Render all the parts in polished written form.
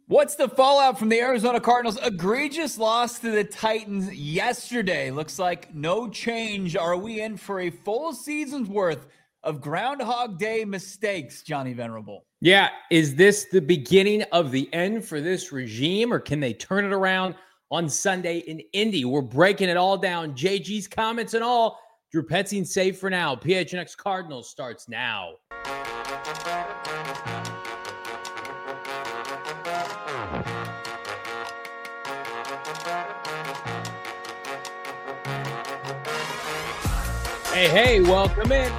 What's the fallout from the Arizona Cardinals' egregious loss to the Titans yesterday? Looks like no change. Are we in for a full season's worth of Groundhog Day mistakes, Johnny Venerable? Yeah, is this the beginning of the end for this regime, or can they turn it around on Sunday in Indy? We're breaking it all down. JG's comments and all. Drew Petzing safe for now. PHNX Cardinals starts now. Hey, welcome in.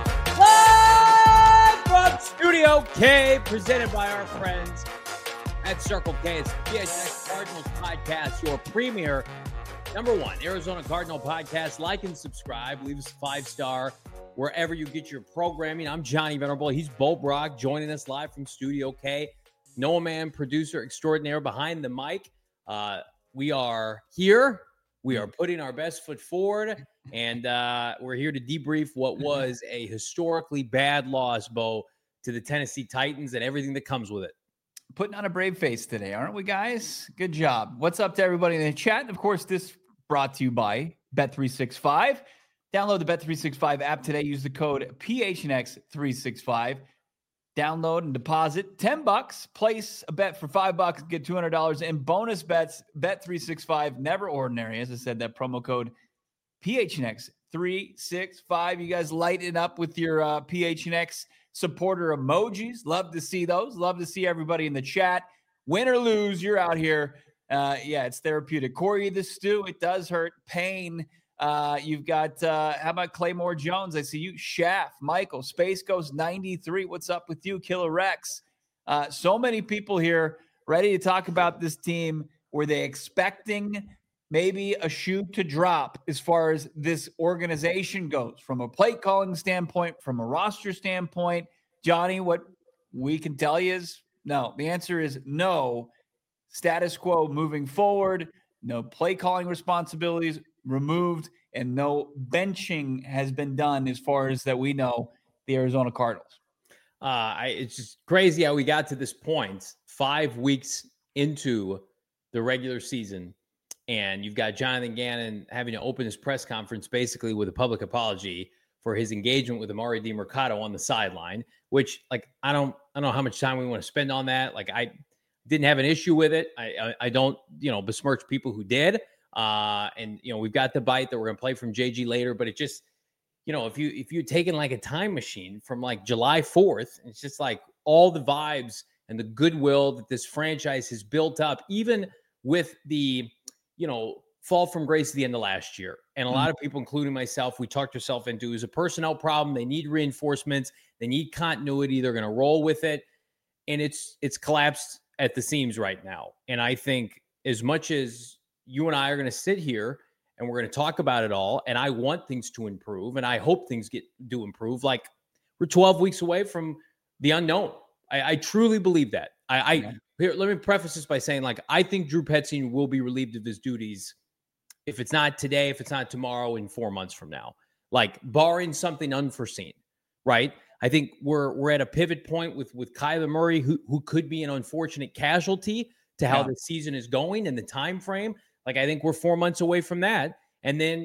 Live from Studio K, presented by our friends at Circle K. It's the PHNX Cardinals podcast, your premier, number one, Arizona Cardinal podcast. Like and subscribe. Leave us a 5-star wherever you get your programming. I'm Johnny Venerable. He's Bo Brock, joining us live from Studio K. Noah Mann, producer extraordinaire behind the mic. We are here. We are putting our best foot forward, and we're here to debrief what was a historically bad loss, Bo, to the Tennessee Titans and everything that comes with it. Putting on a brave face today, aren't we, guys? Good job. What's up to everybody in the chat? Of course, this brought to you by Bet365. Download the Bet365 app today. Use the code PHNX365. Download and deposit $10. Place a bet for $5. Get $200 in bonus bets. Bet365, never ordinary. As I said, that promo code PHNX365. You guys light it up with your PHNX supporter emojis. Love to see those. Love to see everybody in the chat. Win or lose, you're out here. Yeah, it's therapeutic. Corey the Stew, it does hurt. Pain. You've got, how about Claymore Jones? I see you. Shaft, Michael, Space Ghost 93. What's up with you? Killer Rex. So many people here ready to talk about this team. Were they expecting maybe a shoe to drop as far as this organization goes from a play calling standpoint, from a roster standpoint? Johnny, what we can tell you is no. The answer is no. Status quo moving forward. No play calling responsibilities removed, and no benching has been done as far as that we know the Arizona Cardinals. It's just crazy how we got to this point 5 weeks into the regular season, and you've got Jonathan Gannon having to open his press conference basically with a public apology for his engagement with Emari Demercado on the sideline, which, like, I don't know how much time we want to spend on that. Like, I didn't have an issue with it. I don't, besmirch people who did. And we've got the bite that we're going to play from JG later, but it just, if you'd taken like a time machine from like July 4th, it's just like all the vibes and the goodwill that this franchise has built up, even with the, fall from grace at the end of last year. And a lot of people, including myself, we talked ourselves into it was a personnel problem. They need reinforcements. They need continuity. They're going to roll with it. And it's collapsed at the seams right now. And I think as much as you and I are going to sit here and we're going to talk about it all, and I want things to improve, and I hope things do improve. Like, we're 12 weeks away from the unknown. I truly believe that. Here, let me preface this by saying, like, I think Drew Petzing will be relieved of his duties. If it's not today, if it's not tomorrow, in 4 months from now, like, barring something unforeseen, right? I think we're at a pivot point with Kyler Murray, who could be an unfortunate casualty to how the season is going and the time frame. Like, I think we're 4 months away from that. And then,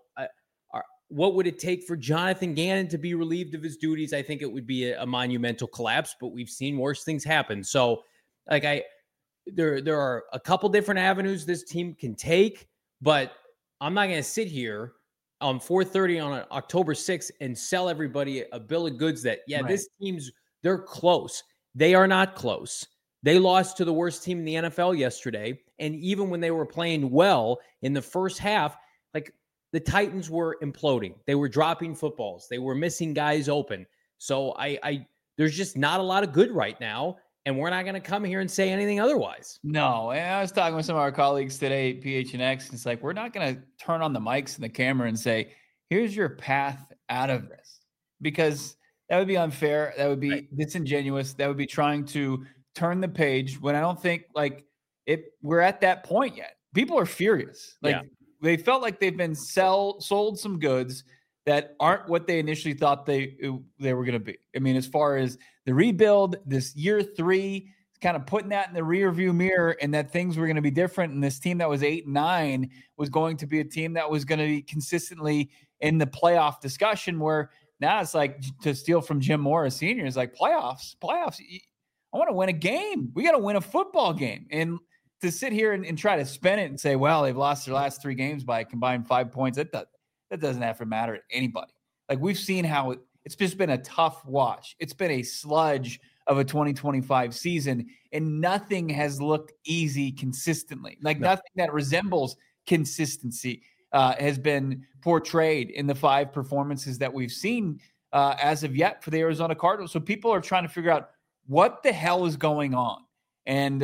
what would it take for Jonathan Gannon to be relieved of his duties? I think it would be a monumental collapse, but we've seen worse things happen. So, like, there are a couple different avenues this team can take, but I'm not going to sit here on 4:30 on October 6th and sell everybody a bill of goods that, this team's, they're close. They are not close. They lost to the worst team in the NFL yesterday. And even when they were playing well in the first half, like, the Titans were imploding. They were dropping footballs. They were missing guys open. So there's just not a lot of good right now. And we're not going to come here and say anything otherwise. No. And I was talking with some of our colleagues today at PHNX. It's like, we're not going to turn on the mics and the camera and say, here's your path out of this, because that would be unfair. That would be disingenuous. That would be trying to turn the page when I don't think we're at that point yet. People are furious. They felt like they've been sold some goods that aren't what they initially thought they were going to be. I mean, as far as the rebuild, this year 3 kind of putting that in the rear view mirror and that things were going to be different. And this team that was 8-9 was going to be a team that was going to be consistently in the playoff discussion, where now it's like, to steal from Jim Morris Sr., is like playoffs. I want to win a game. We got to win a football game. And to sit here and try to spin it and say, well, they've lost their last 3 games by a combined 5 points, that doesn't have to matter to anybody. Like, we've seen how it's just been a tough watch. It's been a sludge of a 2025 season, and nothing has looked easy consistently. Like, nothing that resembles consistency has been portrayed in the 5 performances that we've seen as of yet for the Arizona Cardinals. So people are trying to figure out what the hell is going on. And,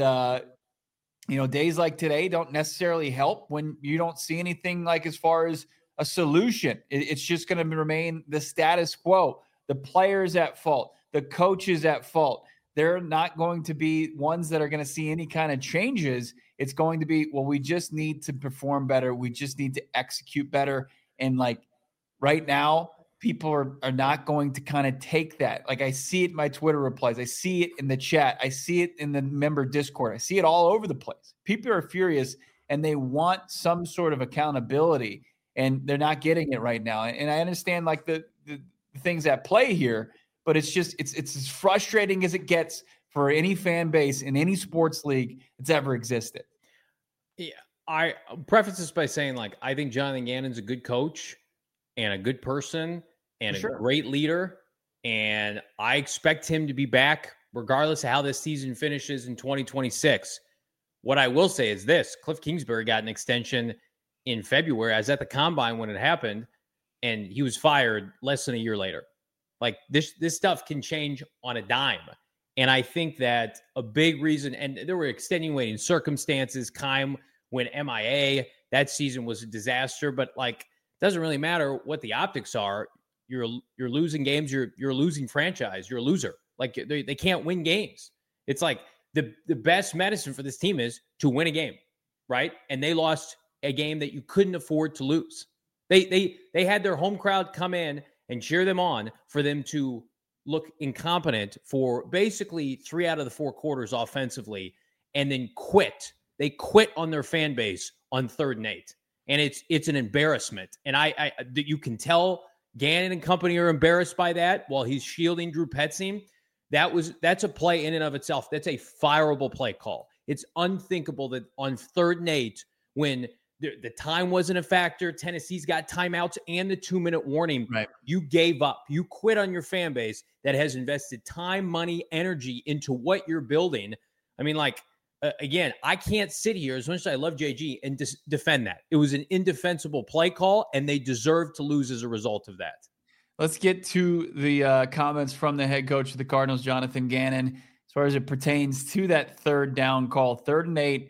days like today don't necessarily help when you don't see anything like as far as a solution. It's just going to remain the status quo. The players at fault, the coaches at fault. They're not going to be ones that are going to see any kind of changes. It's going to be, well, we just need to perform better. We just need to execute better. And like right now, people are not going to kind of take that. Like, I see it in my Twitter replies. I see it in the chat. I see it in the member Discord. I see it all over the place. People are furious and they want some sort of accountability, and they're not getting it right now. And I understand like the things at play here, but it's just, it's as frustrating as it gets for any fan base in any sports league that's ever existed. Yeah. I preface this by saying, like, I think Jonathan Gannon's a good coach and a good person and a great leader. And I expect him to be back regardless of how this season finishes in 2026. What I will say is this: Cliff Kingsbury got an extension in February. I was at the combine when it happened, and he was fired less than a year later. Like, this stuff can change on a dime. And I think that a big reason, and there were extenuating circumstances. Keim went MIA. That season was a disaster, but like, it doesn't really matter what the optics are. You're losing games. You're a losing franchise. You're a loser. Like, they can't win games. It's like the best medicine for this team is to win a game, right? And they lost a game that you couldn't afford to lose. They had their home crowd come in and cheer them on for them to look incompetent for basically 3 out of the 4 quarters offensively, and then quit. They quit on their fan base on 3rd and 8. And it's an embarrassment. And I you can tell Gannon and company are embarrassed by that while he's shielding Drew Petzing. That's a play in and of itself. That's a fireable play call. It's unthinkable that on 3rd and 8, when the time wasn't a factor, Tennessee's got timeouts and the 2-minute warning. Right. You gave up. You quit on your fan base that has invested time, money, energy into what you're building. I mean, like, again, I can't sit here, as much as I love JG, and defend that. It was an indefensible play call, and they deserve to lose as a result of that. Let's get to the comments from the head coach of the Cardinals, Jonathan Gannon, as far as it pertains to that 3rd down call, 3rd and 8.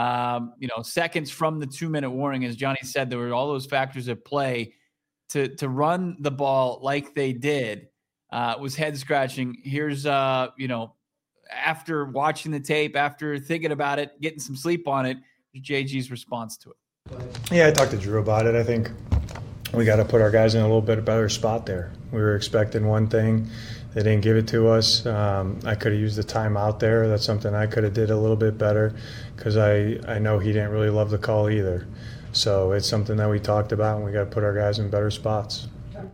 Seconds from the 2-minute warning. As Johnny said, there were all those factors at play. To run the ball like they did was head scratching. Here's after watching the tape, after thinking about it, getting some sleep on it, JG's response to it. Yeah, I talked to Drew about it. I think we got to put our guys in a little bit better spot there. We were expecting one thing. They didn't give it to us. I could have used the time out there. That's something I could have did a little bit better, because I know he didn't really love the call either. So it's something that we talked about, and we got to put our guys in better spots.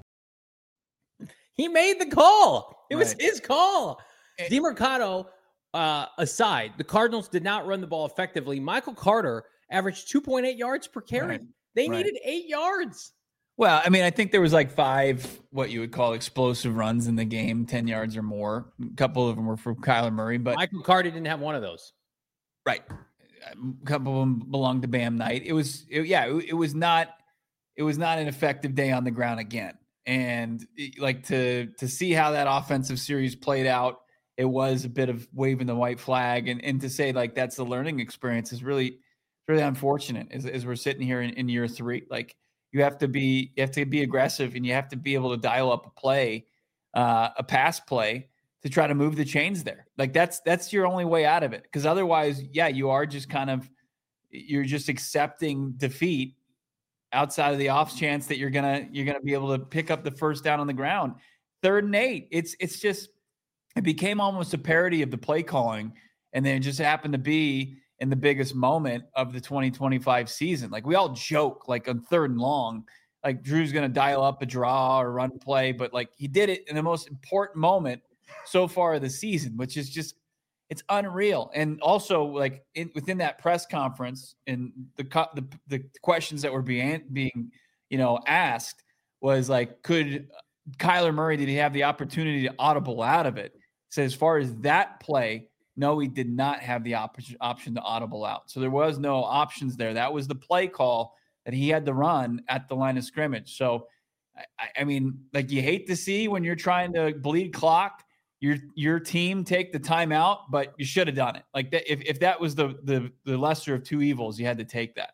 He made the call. It was his call. DeMercado aside, the Cardinals did not run the ball effectively. Michael Carter averaged 2.8 yards per carry. Right. They needed 8 yards. Well, I mean, I think there was like 5 what you would call explosive runs in the game, 10 yards or more. A couple of them were from Kyler Murray, but Michael Carter didn't have one of those. Right. A couple of them belonged to Bam Knight. It was not an effective day on the ground again. And like to see how that offensive series played out, it was a bit of waving the white flag, and to say like that's the learning experience is really unfortunate as we're sitting here in year 3. Like, you have to be aggressive, and you have to be able to dial up a pass play to try to move the chains there. Like, that's your only way out of it. Because otherwise, you are just you're just accepting defeat outside of the off chance that you're gonna be able to pick up the 1st down on the ground. 3rd and 8. It became almost a parody of the play calling. And then it just happened to be in the biggest moment of the 2025 season. Like we all joke, like on 3rd and long, like Drew's going to dial up a draw or run play, but like he did it in the most important moment so far of the season, which is just, it's unreal. And also like within that press conference and the questions that were being, asked was like, could Kyler Murray, did he have the opportunity to audible out of it? So as far as that play, no, he did not have the option to audible out. So there was no options there. That was the play call that he had to run at the line of scrimmage. So, I mean, like you hate to see when you're trying to bleed clock, your team take the timeout, but you should have done it. Like that, if that was the lesser of two evils, you had to take that.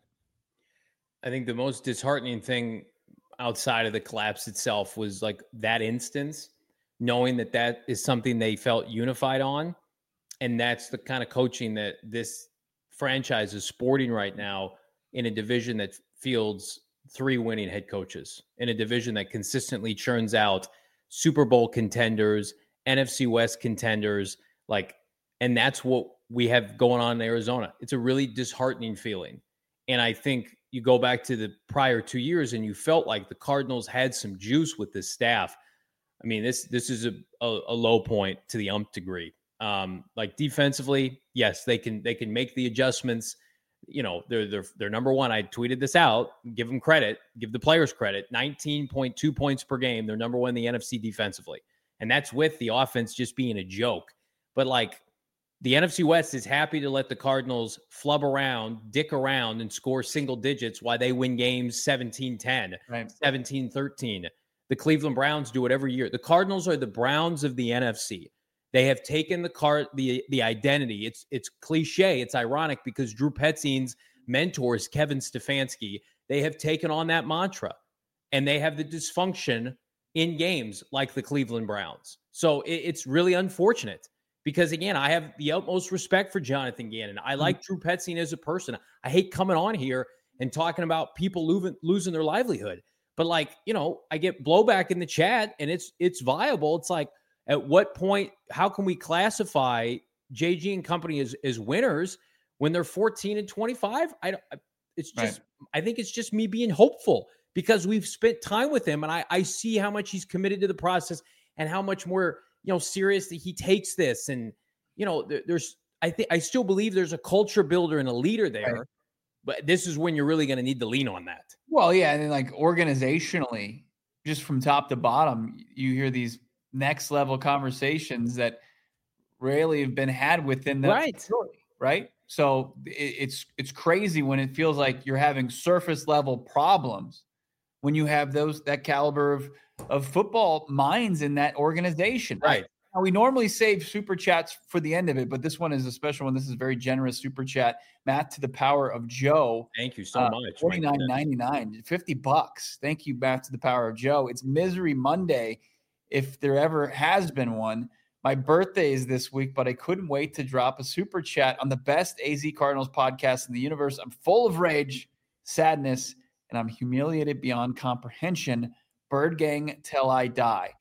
I think the most disheartening thing outside of the collapse itself was like that instance, knowing that is something they felt unified on. And that's the kind of coaching that this franchise is sporting right now in a division that fields 3 winning head coaches, in a division that consistently churns out Super Bowl contenders, NFC West contenders, and that's what we have going on in Arizona. It's a really disheartening feeling. And I think you go back to the prior 2 years and you felt like the Cardinals had some juice with this staff. I mean, this is a low point to the umph degree. Like defensively, yes, they can make the adjustments. They're number one. I tweeted this out. Give them credit. Give the players credit. 19.2 points per game. They're number one in the NFC defensively, and that's with the offense just being a joke. But like the NFC West is happy to let the Cardinals flub around, dick around, and score single digits while they win games 17-10, right. 17-13. The Cleveland Browns do it every year. The Cardinals are the Browns of the NFC. They have taken the identity. It's cliche. It's ironic because Drew Petzine's mentor is Kevin Stefanski. They have taken on that mantra, and they have the dysfunction in games like the Cleveland Browns. So it's really unfortunate because, again, I have the utmost respect for Jonathan Gannon. I like Drew Petzine as a person. I hate coming on here and talking about people losing their livelihood. But, I get blowback in the chat, and it's viable. It's like, at what point, how can we classify JG and company as winners when they're 14-25? I think it's just me being hopeful because we've spent time with him and I see how much he's committed to the process and how much more, seriously he takes this. And, I still believe there's a culture builder and a leader there, right. But this is when you're really going to need to lean on that. Well, yeah. And then organizationally, just from top to bottom, you hear these next level conversations that rarely have been had within the facility, right? So it's crazy when it feels like you're having surface level problems when you have that caliber of football minds in that organization. Right. Now, we normally save super chats for the end of it, but this one is a special one. This is a very generous super chat. Matt to the power of Joe. Thank you so much. $49.99, $50. Thank you, Matt to the power of Joe. It's Misery Monday, if there ever has been one. My birthday is this week, but I couldn't wait to drop a super chat on the best AZ Cardinals podcast in the universe. I'm full of rage, sadness, and I'm humiliated beyond comprehension. Bird gang till I die.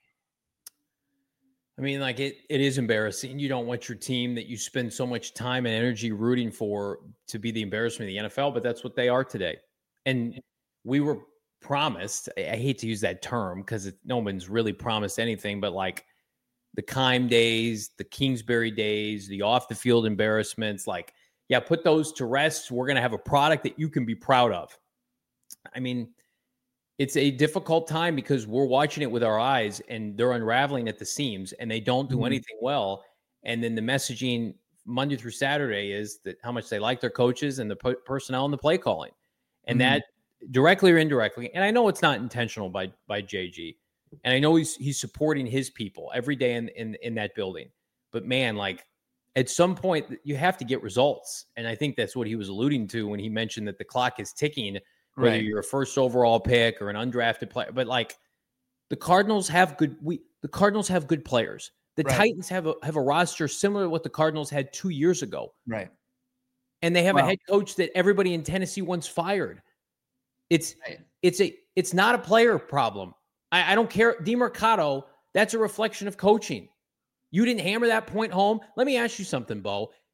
I mean, it is embarrassing. You don't want your team that you spend so much time and energy rooting for to be the embarrassment of the NFL, but that's what they are today. And we were promised, I hate to use that term because no one's really promised anything, but the Keim days, the Kingsbury days, the off the field embarrassments, put those to rest. We're going to have a product that you can be proud of. I mean, it's a difficult time because we're watching it with our eyes and they're unraveling at the seams and they don't do anything well. And then the messaging Monday through Saturday is that how much they like their coaches and the personnel and the play calling. And that directly or indirectly, and I know it's not intentional by JG, and I know he's supporting his people every day in that building. But man, at some point you have to get results. And I think that's what he was alluding to when he mentioned that the clock is ticking, whether you're a first overall pick or an undrafted player. But the Cardinals have good players. The Titans have a roster similar to what the Cardinals had 2 years ago. Right. And they have a head coach that everybody in Tennessee once fired. It's not a player problem. I don't care. DeMercado, that's a reflection of coaching. You didn't hammer that point home. Let me ask you something, Bo.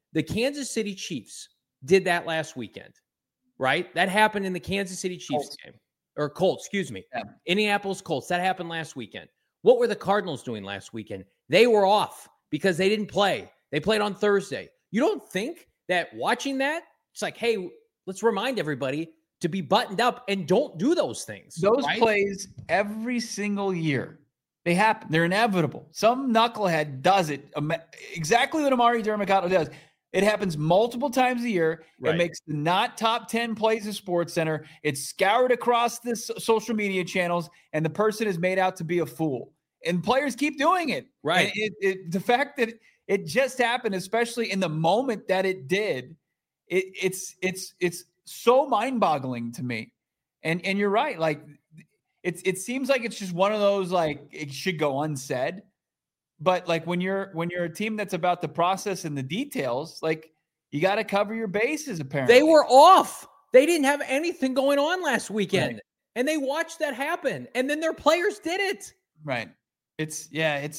The Kansas City Chiefs did that last weekend, right? That happened in the Kansas City Chiefs game. Or Colts, excuse me. Yeah. Indianapolis Colts. That happened last weekend. What were the Cardinals doing last weekend? They were off because they didn't play. They played on Thursday. You don't think that watching that, it's like, hey, let's remind everybody to be buttoned up and don't do those things. Those right? plays every single year, they happen. They're inevitable. Some knucklehead does it exactly what Amari Dermicotto does. It happens multiple times a year. Right. It makes the not top 10 plays of SportsCenter. It's scoured across the social media channels, and the person is made out to be a fool. And players keep doing it. Right. And the fact that it just happened, especially in the moment that it did, it's so mind-boggling to me. And you're right. Like it seems like it's just one of those, like, it should go unsaid. But like when you're a team that's about the process and the details, like, you got to cover your bases. Apparently, they were off. They didn't have anything going on last weekend, right. And they watched that happen. And then their players did it. Right. It's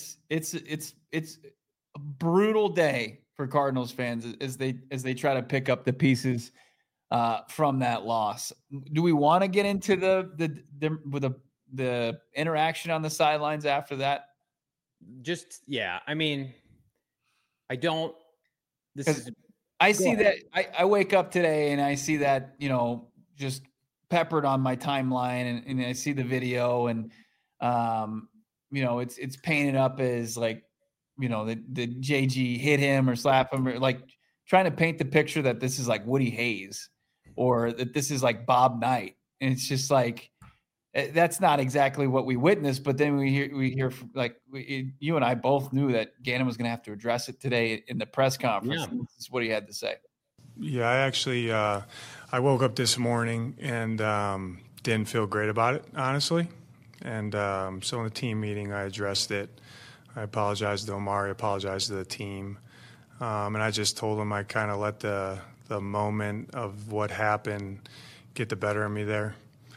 a brutal day for Cardinals fans as they try to pick up the pieces from that loss. Do we want to get into the interaction on the sidelines after that? Just, yeah. I mean, I don't. I see that. I wake up today and I see that, just peppered on my timeline, and I see the video, and it's painted up as like, the JG hit him or slap him, or like trying to paint the picture that this is like Woody Hayes or that this is like Bob Knight. And it's just like, that's not exactly what we witnessed. But then we hear like you and I both knew that Gannon was going to have to address it today in the press conference. Yeah. This is what he had to say. Yeah, I actually, I woke up this morning and didn't feel great about it, honestly. And so in the team meeting, I addressed it. I apologized to Omari, apologized to the team. And I just told him I kind of let the moment of what happened get the better of me there.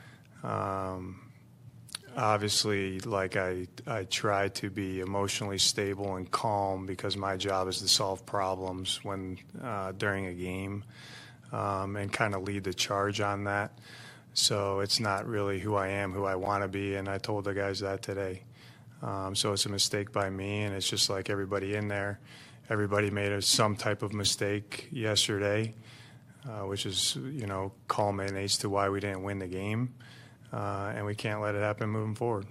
Obviously, like I try to be emotionally stable and calm because my job is to solve problems when during a game and kind of lead the charge on that. So it's not really who I am, who I want to be, and I told the guys that today. So it's a mistake by me, and it's just like everybody in there. Everybody made some type of mistake yesterday, which is, culminates to why we didn't win the game. And we can't let it happen moving forward.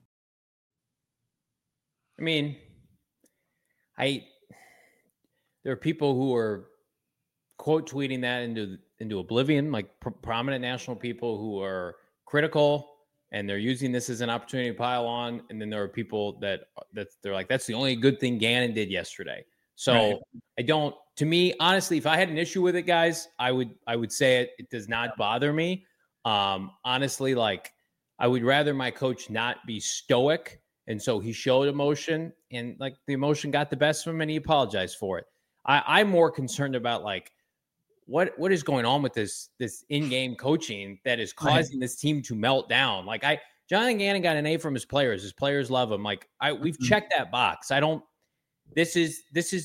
I mean, there are people who are quote tweeting that into oblivion, like prominent national people who are critical, and they're using this as an opportunity to pile on. And then there are people that they're like, that's the only good thing Gannon did yesterday. So right. To me, honestly, if I had an issue with it, guys, I would say it does not bother me. Honestly, like, I would rather my coach not be stoic. And so he showed emotion, and like the emotion got the best of him, and he apologized for it. I'm more concerned about like what is going on with this in-game coaching that is causing this team to melt down. Like Jonathan Gannon got an A from his players. His players love him. Like we've checked that box. This is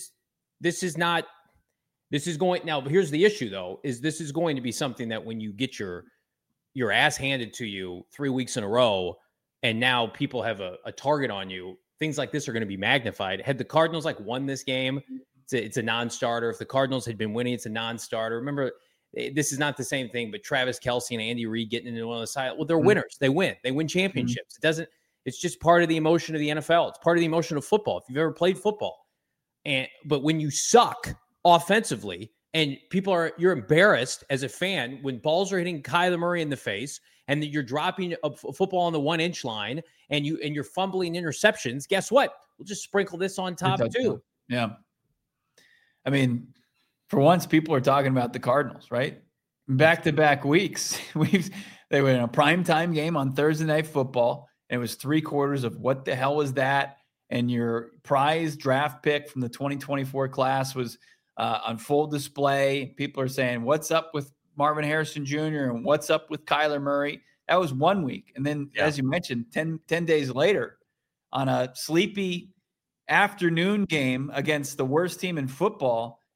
going, now here's the issue though, is this is going to be something that when you get your ass handed to you 3 weeks in a row, and now people have a target on you, things like this are going to be magnified. Had the Cardinals won this game, it's a non-starter. If the Cardinals had been winning, it's a non-starter. Remember, this is not the same thing, but Travis Kelce and Andy Reid getting into one of the side. Well, they're winners. They win championships. It's just part of the emotion of the NFL. It's part of the emotion of football. If you've ever played football, but when you suck offensively, and you're embarrassed as a fan when balls are hitting Kyler Murray in the face, and that you're dropping a football on the 1-inch line, and you're fumbling interceptions. Guess what? We'll just sprinkle this on top too. Yeah. I mean, for once, people are talking about the Cardinals, right? Back-to-back weeks. They were in a primetime game on Thursday Night Football, and it was 3/4 of what the hell was that? And your prize draft pick from the 2024 class was on full display. People are saying, what's up with Marvin Harrison Jr. and what's up with Kyler Murray? That was 1 week. And then, as you mentioned, 10 days later, on a sleepy afternoon game against the worst team in football,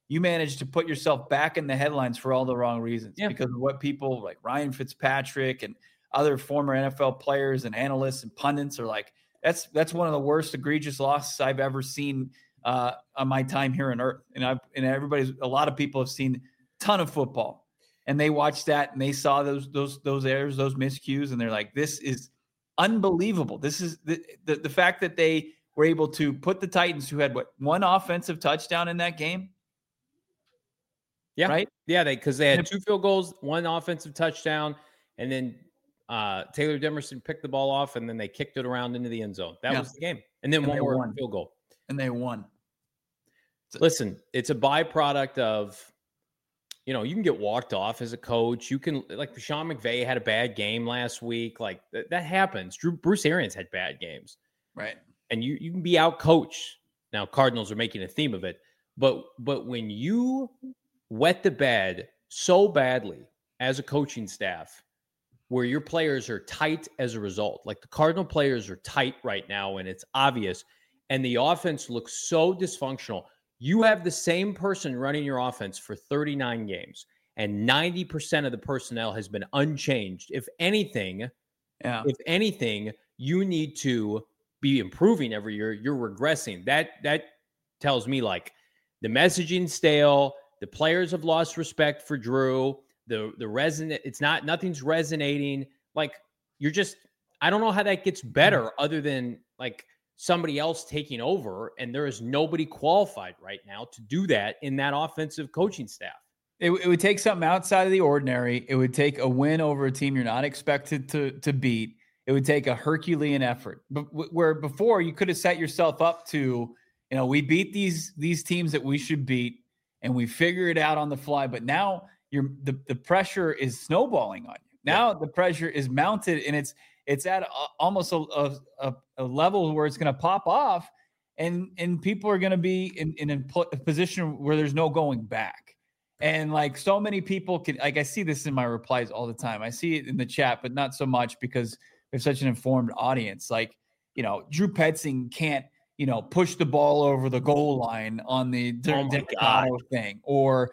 you managed to put yourself back in the headlines for all the wrong reasons because of what people like Ryan Fitzpatrick and other former NFL players and analysts and pundits are like. That's one of the worst egregious losses I've ever seen on my time here on Earth. And a lot of people have seen a ton of football, and they watched that and they saw those errors, those miscues, and they're like, this is unbelievable. This is the fact that they were able to put the Titans, who had one offensive touchdown in that game. Yeah. Right. Yeah. Because they had 2 field goals, 1 offensive touchdown, and then Taylor Demerson picked the ball off, and then they kicked it around into the end zone. That was the game. And then one more field goal. And they won. Listen, it's a byproduct of, you can get walked off as a coach. You can, like Sean McVay had a bad game last week. Like that happens. Bruce Arians had bad games. Right. And you can be out coached. Now, Cardinals are making a theme of it. But when you wet the bed so badly as a coaching staff, where your players are tight as a result, like the Cardinal players are tight right now, and it's obvious, and the offense looks so dysfunctional. You have the same person running your offense for 39 games, and 90% of the personnel has been unchanged. If anything, you need to be improving every year. You're regressing. That tells me like the messaging stale. The players have lost respect for Drew. Nothing's resonating. Like I don't know how that gets better other than like somebody else taking over, and there is nobody qualified right now to do that in that offensive coaching staff. It would take something outside of the ordinary. It would take a win over a team you're not expected to beat. It would take a Herculean effort. But where before you could have set yourself up to, we beat these teams that we should beat, and we figure it out on the fly. But now the pressure is snowballing on you. Now the pressure is mounted, and it's at almost a level where it's going to pop off, and people are going to be in a position where there's no going back. And like so many people I see this in my replies all the time. I see it in the chat, but not so much because we have such an informed audience. Like, Drew Petzing can't, push the ball over the goal line on the thing, or,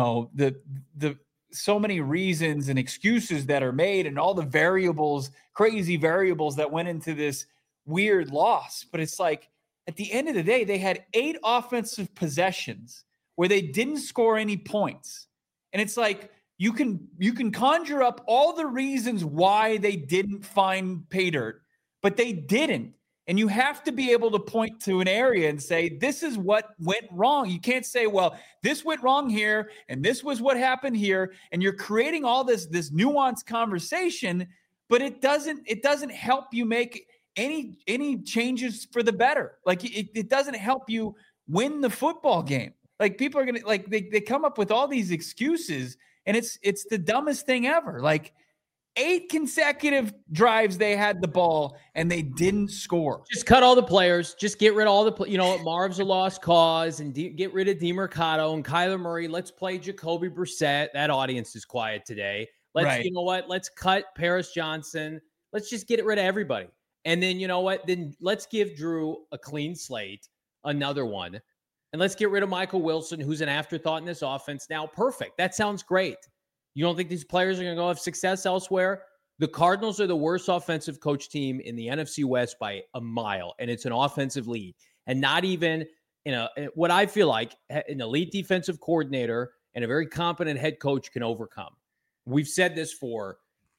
the so many reasons and excuses that are made, and all the crazy variables that went into this weird loss. But it's like, at the end of the day, they had 8 offensive possessions where they didn't score any points. And it's like, you can conjure up all the reasons why they didn't find pay dirt, but they didn't. And you have to be able to point to an area and say, this is what went wrong. You can't say, well, this went wrong here, and this was what happened here. And you're creating all this nuanced conversation, but it doesn't help you make any changes for the better. Like it doesn't help you win the football game. Like people are going to they come up with all these excuses, and it's the dumbest thing ever. Like 8 consecutive drives they had the ball and they didn't score. Just cut all the players. Just get rid of all the Marv's a lost cause, and get rid of DeMercado and Kyler Murray. Let's play Jacoby Brissett. That audience is quiet today. Let's cut Paris Johnson. Let's just get rid of everybody. And then, then let's give Drew a clean slate, another one. And let's get rid of Michael Wilson, who's an afterthought in this offense now. Perfect. That sounds great. You don't think these players are going to go have success elsewhere? The Cardinals are the worst offensive coach team in the NFC West by a mile, and it's an offensive lead. And not even what I feel like an elite defensive coordinator and a very competent head coach can overcome. We've said this for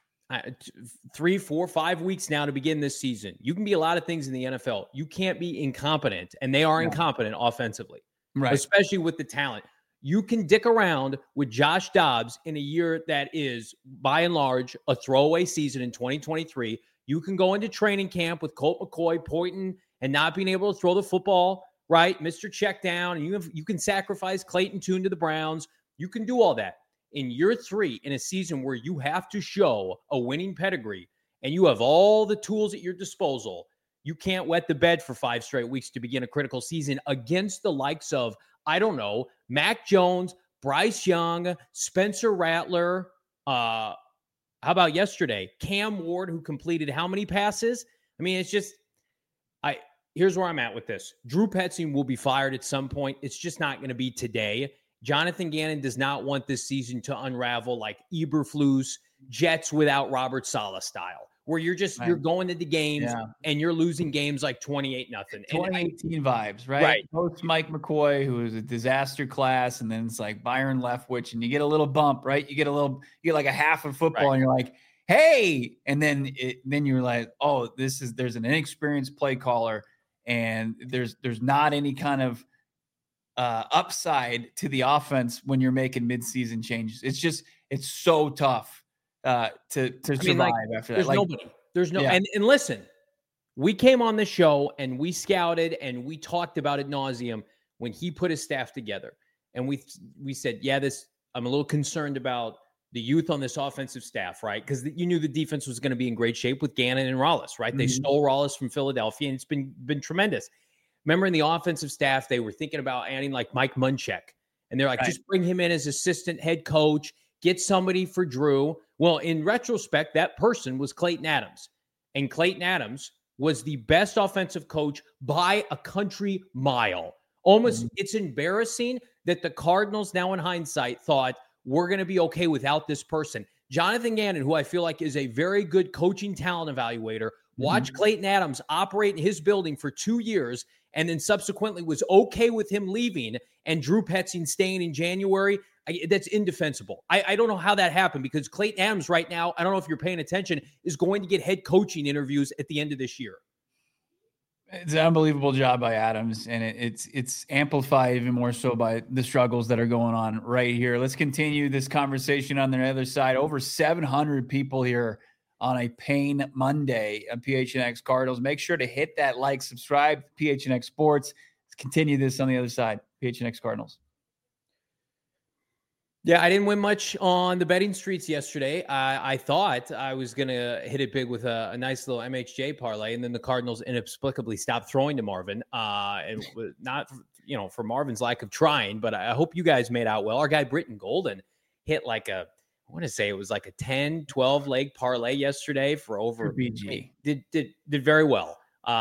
3, 4, 5 weeks now to begin this season. You can be a lot of things in the NFL. You can't be incompetent, and they are incompetent offensively, right? Especially with the talent. You can dick around with Josh Dobbs in a year that is, by and large, a throwaway season in 2023. You can go into training camp with Colt McCoy pointing and not being able to throw the football, right? Mr. Check down. And you can sacrifice Clayton Tune to the Browns. You can do all that. In year 3, in a season where you have to show a winning pedigree and you have all the tools at your disposal, you can't wet the bed for 5 straight weeks to begin a critical season against the likes of, I don't know, Mac Jones, Bryce Young, Spencer Rattler. How about yesterday? Cam Ward, who completed how many passes? I mean, it's just, here's where I'm at with this. Drew Petzing will be fired at some point. It's just not going to be today. Jonathan Gannon does not want this season to unravel like Eberflus, Jets without Robert Saleh style, where you're going into games and you're losing games like 28-0. 2018 vibes, right? Right. Post Mike McCoy, who was a disaster class, and then it's like Byron Leftwich, and you get a little bump, right? You get like a half of football, and you're like, hey, and then you're like, oh, there's an inexperienced play caller, and there's not any kind of upside to the offense when you're making midseason changes. It's so tough to survive after that. There's no, and listen, we came on the show and we scouted and we talked about ad nauseum when he put his staff together, and we said, I'm a little concerned about the youth on this offensive staff, right? Because you knew the defense was going to be in great shape with Gannon and Rollis, right? Mm-hmm. They stole Rollis from Philadelphia, and it's been tremendous. Remember, in the offensive staff, they were thinking about adding like Mike Munchak, and they're like, just bring him in as assistant head coach, get somebody for Drew. Well, in retrospect, that person was Clayton Adams, and Clayton Adams was the best offensive coach by a country mile. Almost, It's embarrassing that the Cardinals now in hindsight thought, we're going to be okay without this person. Jonathan Gannon, who I feel like is a very good coaching talent evaluator, watched Clayton Adams operate in his building for 2 years and then subsequently was okay with him leaving and Drew Petzing staying in January. That's indefensible. I don't know how that happened, because Clayton Adams right now, I don't know if you're paying attention, is going to get head coaching interviews at the end of this year. It's an unbelievable job by Adams, and it's amplified even more so by the struggles that are going on right here. Let's continue this conversation on the other side. Over 700 people here on a Pain Monday on PHNX Cardinals. Make sure to hit that like, subscribe to PHNX Sports. Let's continue this on the other side. PHNX Cardinals. Yeah, I didn't win much on the betting streets yesterday. I thought I was going to hit it big with a nice little MHJ parlay, and then the Cardinals inexplicably stopped throwing to Marvin. And not, for Marvin's lack of trying, but I hope you guys made out well. Our guy Britton Golden hit like I want to say it was like a 10, 12 leg parlay yesterday for over BG. Did very well.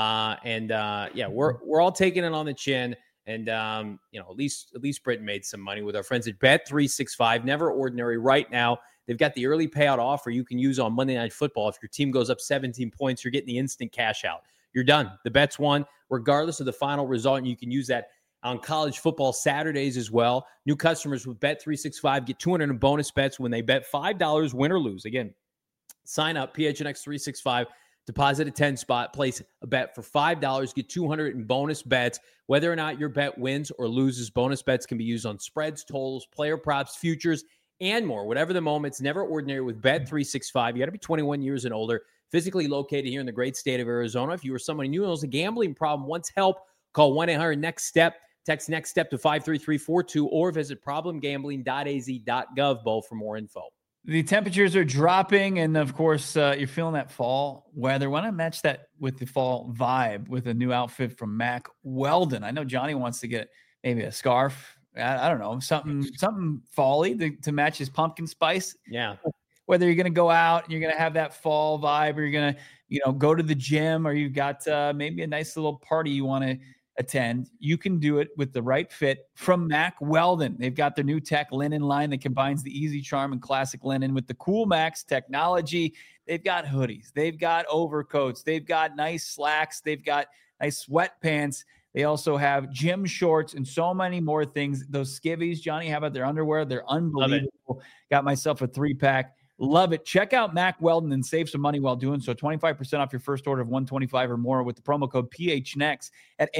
We're all taking it on the chin. And, at least Britton made some money with our friends at Bet365. Never ordinary right now. They've got the early payout offer you can use on Monday Night Football. If your team goes up 17 points, you're getting the instant cash out. You're done. The bet's won, regardless of the final result. And you can use that on college football Saturdays as well. New customers with Bet365 get $200 in bonus bets when they bet $5, win or lose. Again, sign up, PHNX365. Deposit a 10 spot, place a bet for $5, get $200 in bonus bets. Whether or not your bet wins or loses, bonus bets can be used on spreads, totals, player props, futures, and more. Whatever the moment, it's never ordinary with Bet365. You got to be 21 years and older, physically located here in the great state of Arizona. If you or someone you know has a gambling problem, wants help, call 1-800-NEXT-STEP. Text NEXT STEP to 53342 or visit problemgambling.az.gov, Bo, for more info. The temperatures are dropping, and of course, you're feeling that fall weather. Why not match that with the fall vibe with a new outfit from Mack Weldon? I know Johnny wants to get maybe a scarf. I don't know, something fall-y to match his pumpkin spice. Yeah. Whether you're going to go out and you're going to have that fall vibe, or you're going to, go to the gym, or you've got maybe a nice little party you want to attend, you can do it with the right fit from Mack Weldon. They've got their new tech linen line that combines the easy charm and classic linen with the Cool Max technology. They've got hoodies, they've got overcoats, they've got nice slacks, they've got nice sweatpants. They also have gym shorts and so many more things. Those skivvies, Johnny, how about their underwear? They're unbelievable. Got myself a 3-pack. Love it. Check out Mack Weldon and save some money while doing so. 25% off your first order of $125 or more with the promo code PHNX at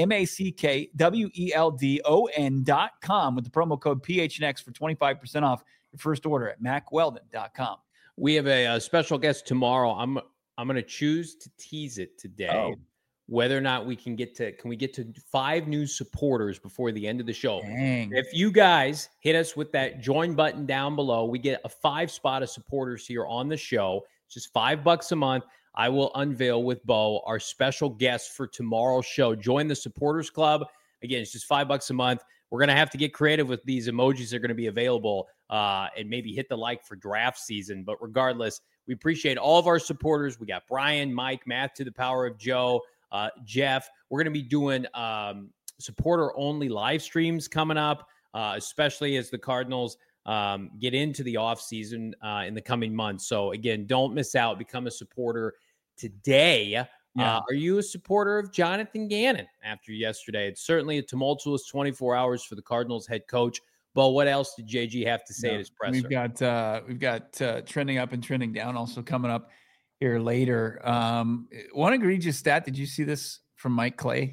MackWeldon.com with the promo code PHNX for 25% off your first order at MackWeldon.com. We have a special guest tomorrow. I'm going to choose to tease it today. Whether or not we can get to 5 new supporters before the end of the show. Dang. If you guys hit us with that join button down below, we get a 5 spot of supporters here on the show. It's just $5 a month. I will unveil with Bo our special guest for tomorrow's show. Join the supporters club. Again, it's just $5 a month. We're going to have to get creative with these emojis that are going to be available and maybe hit the like for draft season. But regardless, we appreciate all of our supporters. We got Brian, Mike, Matt to the power of Joe, Jeff. We're going to be doing supporter-only live streams coming up. especially as the Cardinals get into the offseason in the coming months. So again, don't miss out. Become a supporter today. Are you a supporter of Jonathan Gannon after yesterday? It's certainly a tumultuous 24 hours for the Cardinals head coach. But what else did JG have to say at his presser? We've got trending up and trending down also coming up here later. One egregious stat. Did you see this from Mike Clay?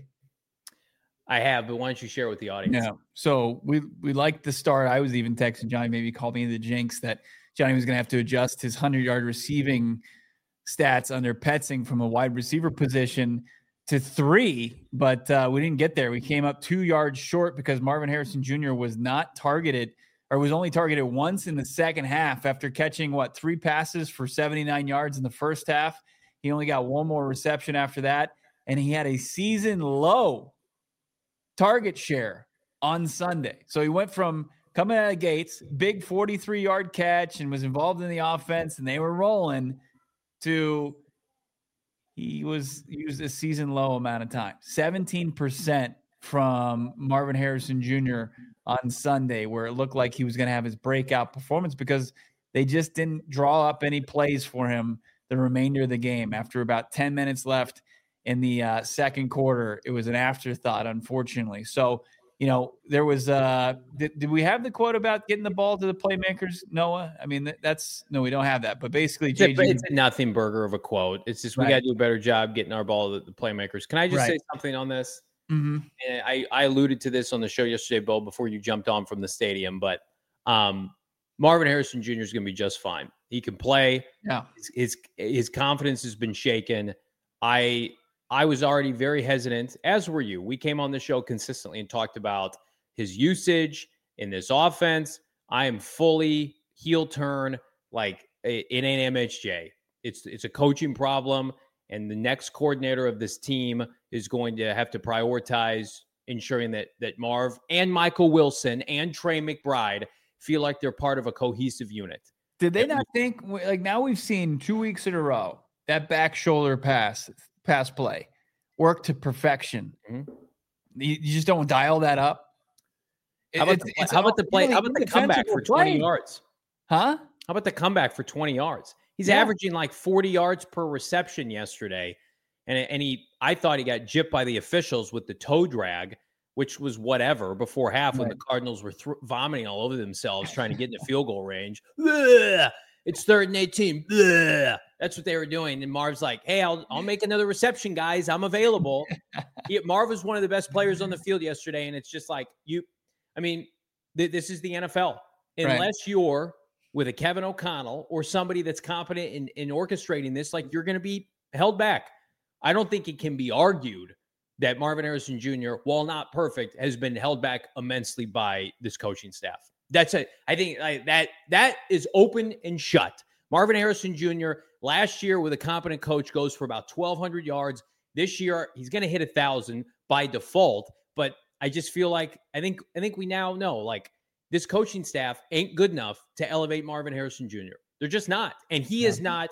I have, but why don't you share it with the audience? Yeah. So we liked the start. I was even texting Johnny, maybe called me the jinx that Johnny was going to have to adjust his 100-yard receiving stats under Petzing from a wide receiver position to 3, but we didn't get there. We came up 2 yards short because Marvin Harrison Jr. was not targeted, or was only targeted once in the second half after catching 3 passes for 79 yards in the first half. He only got 1 more reception after that, and he had a season low target share on Sunday. So he went from coming out of the gates, big 43-yard catch, and was involved in the offense, and they were rolling, to he was used a season low amount of time. 17% from Marvin Harrison Jr. on Sunday, where it looked like he was going to have his breakout performance because they just didn't draw up any plays for him the remainder of the game. After about 10 minutes left in the second quarter, it was an afterthought, unfortunately. So, there was did we have the quote about getting the ball to the playmakers, Noah? I mean, no, we don't have that. But basically, it's a nothing burger of a quote. It's just we got to do a better job getting our ball to the playmakers. Can I just say something on this? Mm-hmm. And I alluded to this on the show yesterday, Bo, before you jumped on from the stadium. But Marvin Harrison Jr. is going to be just fine. He can play. Yeah, his confidence has been shaken. I was already very hesitant, as were you. We came on the show consistently and talked about his usage in this offense. I am fully heel turn. Like, it ain't MHJ. It's a coaching problem, and the next coordinator of this team is going to have to prioritize ensuring that Marv and Michael Wilson and Trey McBride feel like they're part of a cohesive unit. Did they not think, now we've seen 2 weeks in a row, that back shoulder pass play work to perfection. Mm-hmm. You just don't dial that up. How about the comeback for 20 yards? Huh? How about the comeback for 20 yards? He's averaging like 40 yards per reception yesterday. And I thought he got gypped by the officials with the toe drag, which was whatever before half when the Cardinals were vomiting all over themselves trying to get in the field goal range. Bleh! It's 3rd and 18. Bleh! That's what they were doing. And Marv's like, hey, I'll make another reception, guys. I'm available. Marv was one of the best players on the field yesterday. And it's just like, this is the NFL. Unless you're with a Kevin O'Connell or somebody that's competent in orchestrating this, like, you're going to be held back. I don't think it can be argued that Marvin Harrison Jr., while not perfect, has been held back immensely by this coaching staff. That's it. I think that is open and shut. Marvin Harrison Jr. last year with a competent coach goes for about 1,200 yards. This year he's going to hit 1,000 by default. But I just feel like I think we now know, like, this coaching staff ain't good enough to elevate Marvin Harrison Jr. They're just not, and he is not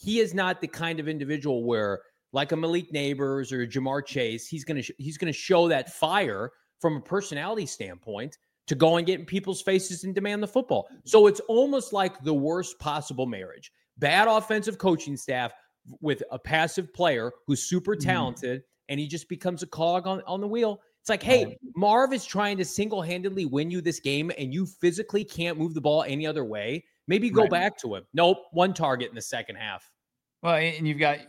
the kind of individual where, like a Malik Neighbors or a Jamar Chase, he's gonna show that fire from a personality standpoint to go and get in people's faces and demand the football. So it's almost like the worst possible marriage. Bad offensive coaching staff with a passive player who's super talented, and he just becomes a cog on the wheel. It's like, hey, Marv is trying to single-handedly win you this game, and you physically can't move the ball any other way. Maybe go back to him. Nope, 1 target in the second half. Well, and you've got,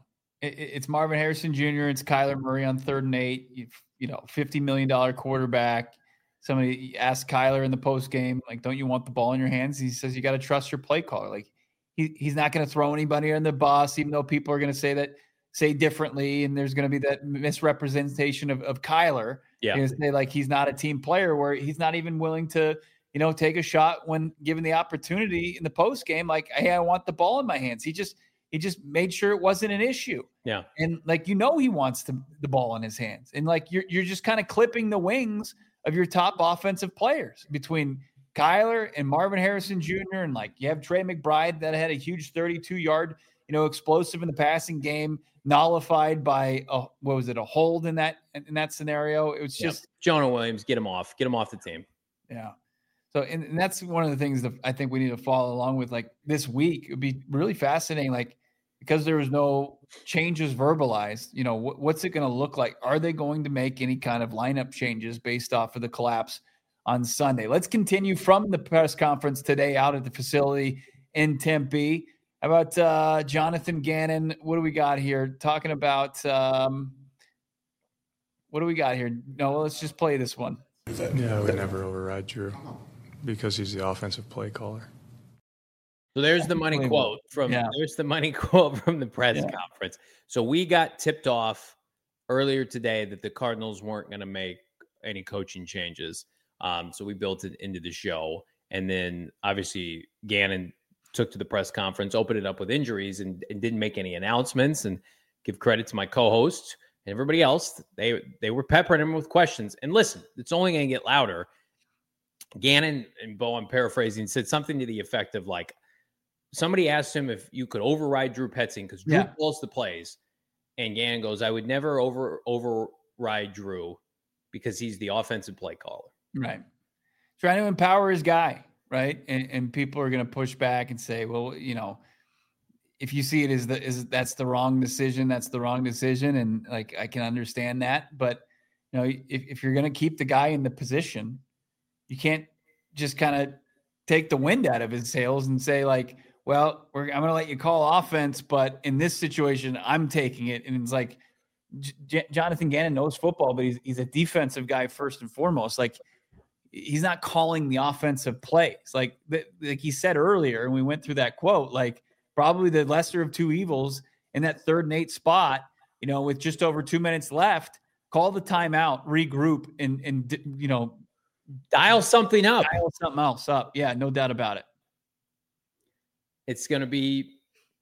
it's Marvin Harrison Jr., it's Kyler Murray on 3rd and 8, $50 million quarterback. Somebody asked Kyler in the post game, like, don't you want the ball in your hands? He says, you got to trust your play caller. Like, he's not going to throw anybody on the bus, even though people are going to say differently. And there's going to be that misrepresentation of Kyler. Yeah. Say, like, he's not a team player, where he's not even willing to, take a shot when given the opportunity in the post game. Like, hey, I want the ball in my hands. He just made sure it wasn't an issue. Yeah. And he wants the ball in his hands. And like, you're just kind of clipping the wings of your top offensive players between Kyler and Marvin Harrison Jr. And like, you have Trey McBride that had a huge 32-yard, explosive in the passing game, nullified by a hold in that scenario. It was just Jonah Williams, get him off the team. Yeah. So, and that's one of the things that I think we need to follow along with. Like this week, it would be really fascinating. Like, because there was no changes verbalized, what's it going to look like? Are they going to make any kind of lineup changes based off of the collapse on Sunday? Let's continue from the press conference today out at the facility in Tempe. How about Jonathan Gannon? What do we got here? Talking about what do we got here? No, let's just play this one. Yeah, I would never override Drew because he's the offensive play caller. So there's the money quote from the press conference. So we got tipped off earlier today that the Cardinals weren't going to make any coaching changes. So we built it into the show. And then obviously Gannon took to the press conference, opened it up with injuries and didn't make any announcements, and give credit to my co-host and everybody else. They were peppering him with questions. And listen, it's only going to get louder. Gannon, and Bo, I'm paraphrasing, said something to the effect of like, somebody asked him if you could override Drew Petzing because Drew calls the plays. And Gannon goes, I would never override Drew because he's the offensive play caller. Right. Trying to empower his guy, right? And people are going to push back and say, well, if you see it as that's the wrong decision, that's the wrong decision. And like, I can understand that. But, if you're going to keep the guy in the position, you can't just kind of take the wind out of his sails and say like, well, I'm going to let you call offense, but in this situation, I'm taking it. And it's like Jonathan Gannon knows football, but he's a defensive guy first and foremost. Like he's not calling the offensive plays. Like he said earlier, and we went through that quote, like probably the lesser of two evils in that 3rd and 8 spot, with just over 2 minutes left, call the timeout, regroup, and dial something up. Dial something else up. Yeah, no doubt about it. It's going to be,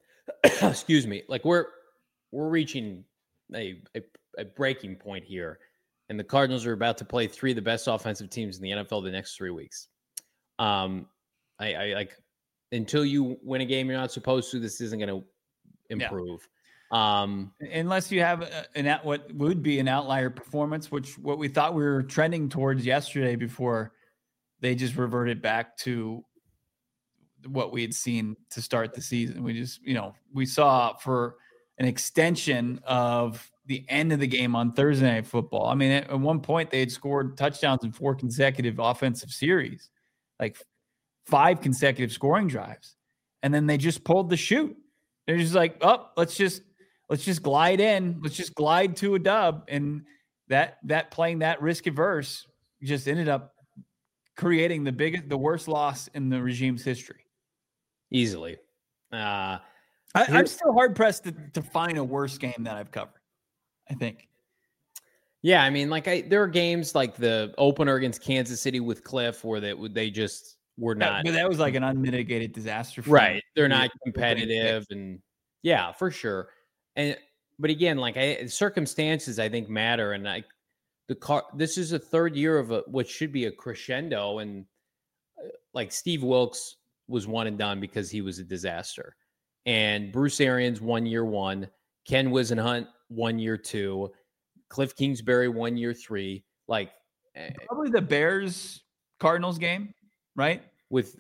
excuse me, like we're reaching a breaking point here, and the Cardinals are about to play 3 of the best offensive teams in the NFL the next 3 weeks. I like until you win a game you're not supposed to, this isn't going to improve. Yeah. Unless you have what would be an outlier performance, what we thought we were trending towards yesterday before they just reverted back to what we had seen to start the season. We just, we saw for an extension of the end of the game on Thursday Night Football. I mean, at one point they had scored touchdowns in 4 consecutive offensive series, like 5 consecutive scoring drives. And then they just pulled the chute. They're just like, oh, let's just glide in. Let's just glide to a dub. And that playing that risk averse just ended up creating the worst loss in the regime's history. Easily. I'm still hard pressed to find a worse game that I've covered, I think. Yeah. I mean, there are games like the opener against Kansas City with Cliff where they just were not. But that was like an unmitigated disaster. Right. They're not competitive. And yeah, for sure. But again, circumstances I think matter. And this is a 3rd year of what should be a crescendo. And like Steve Wilkes was one and done because he was a disaster. And Bruce Arians 1 year 1, Ken Wisenhunt 1 year 2, Cliff Kingsbury 1 year 3. Like probably the Bears Cardinals game, right? With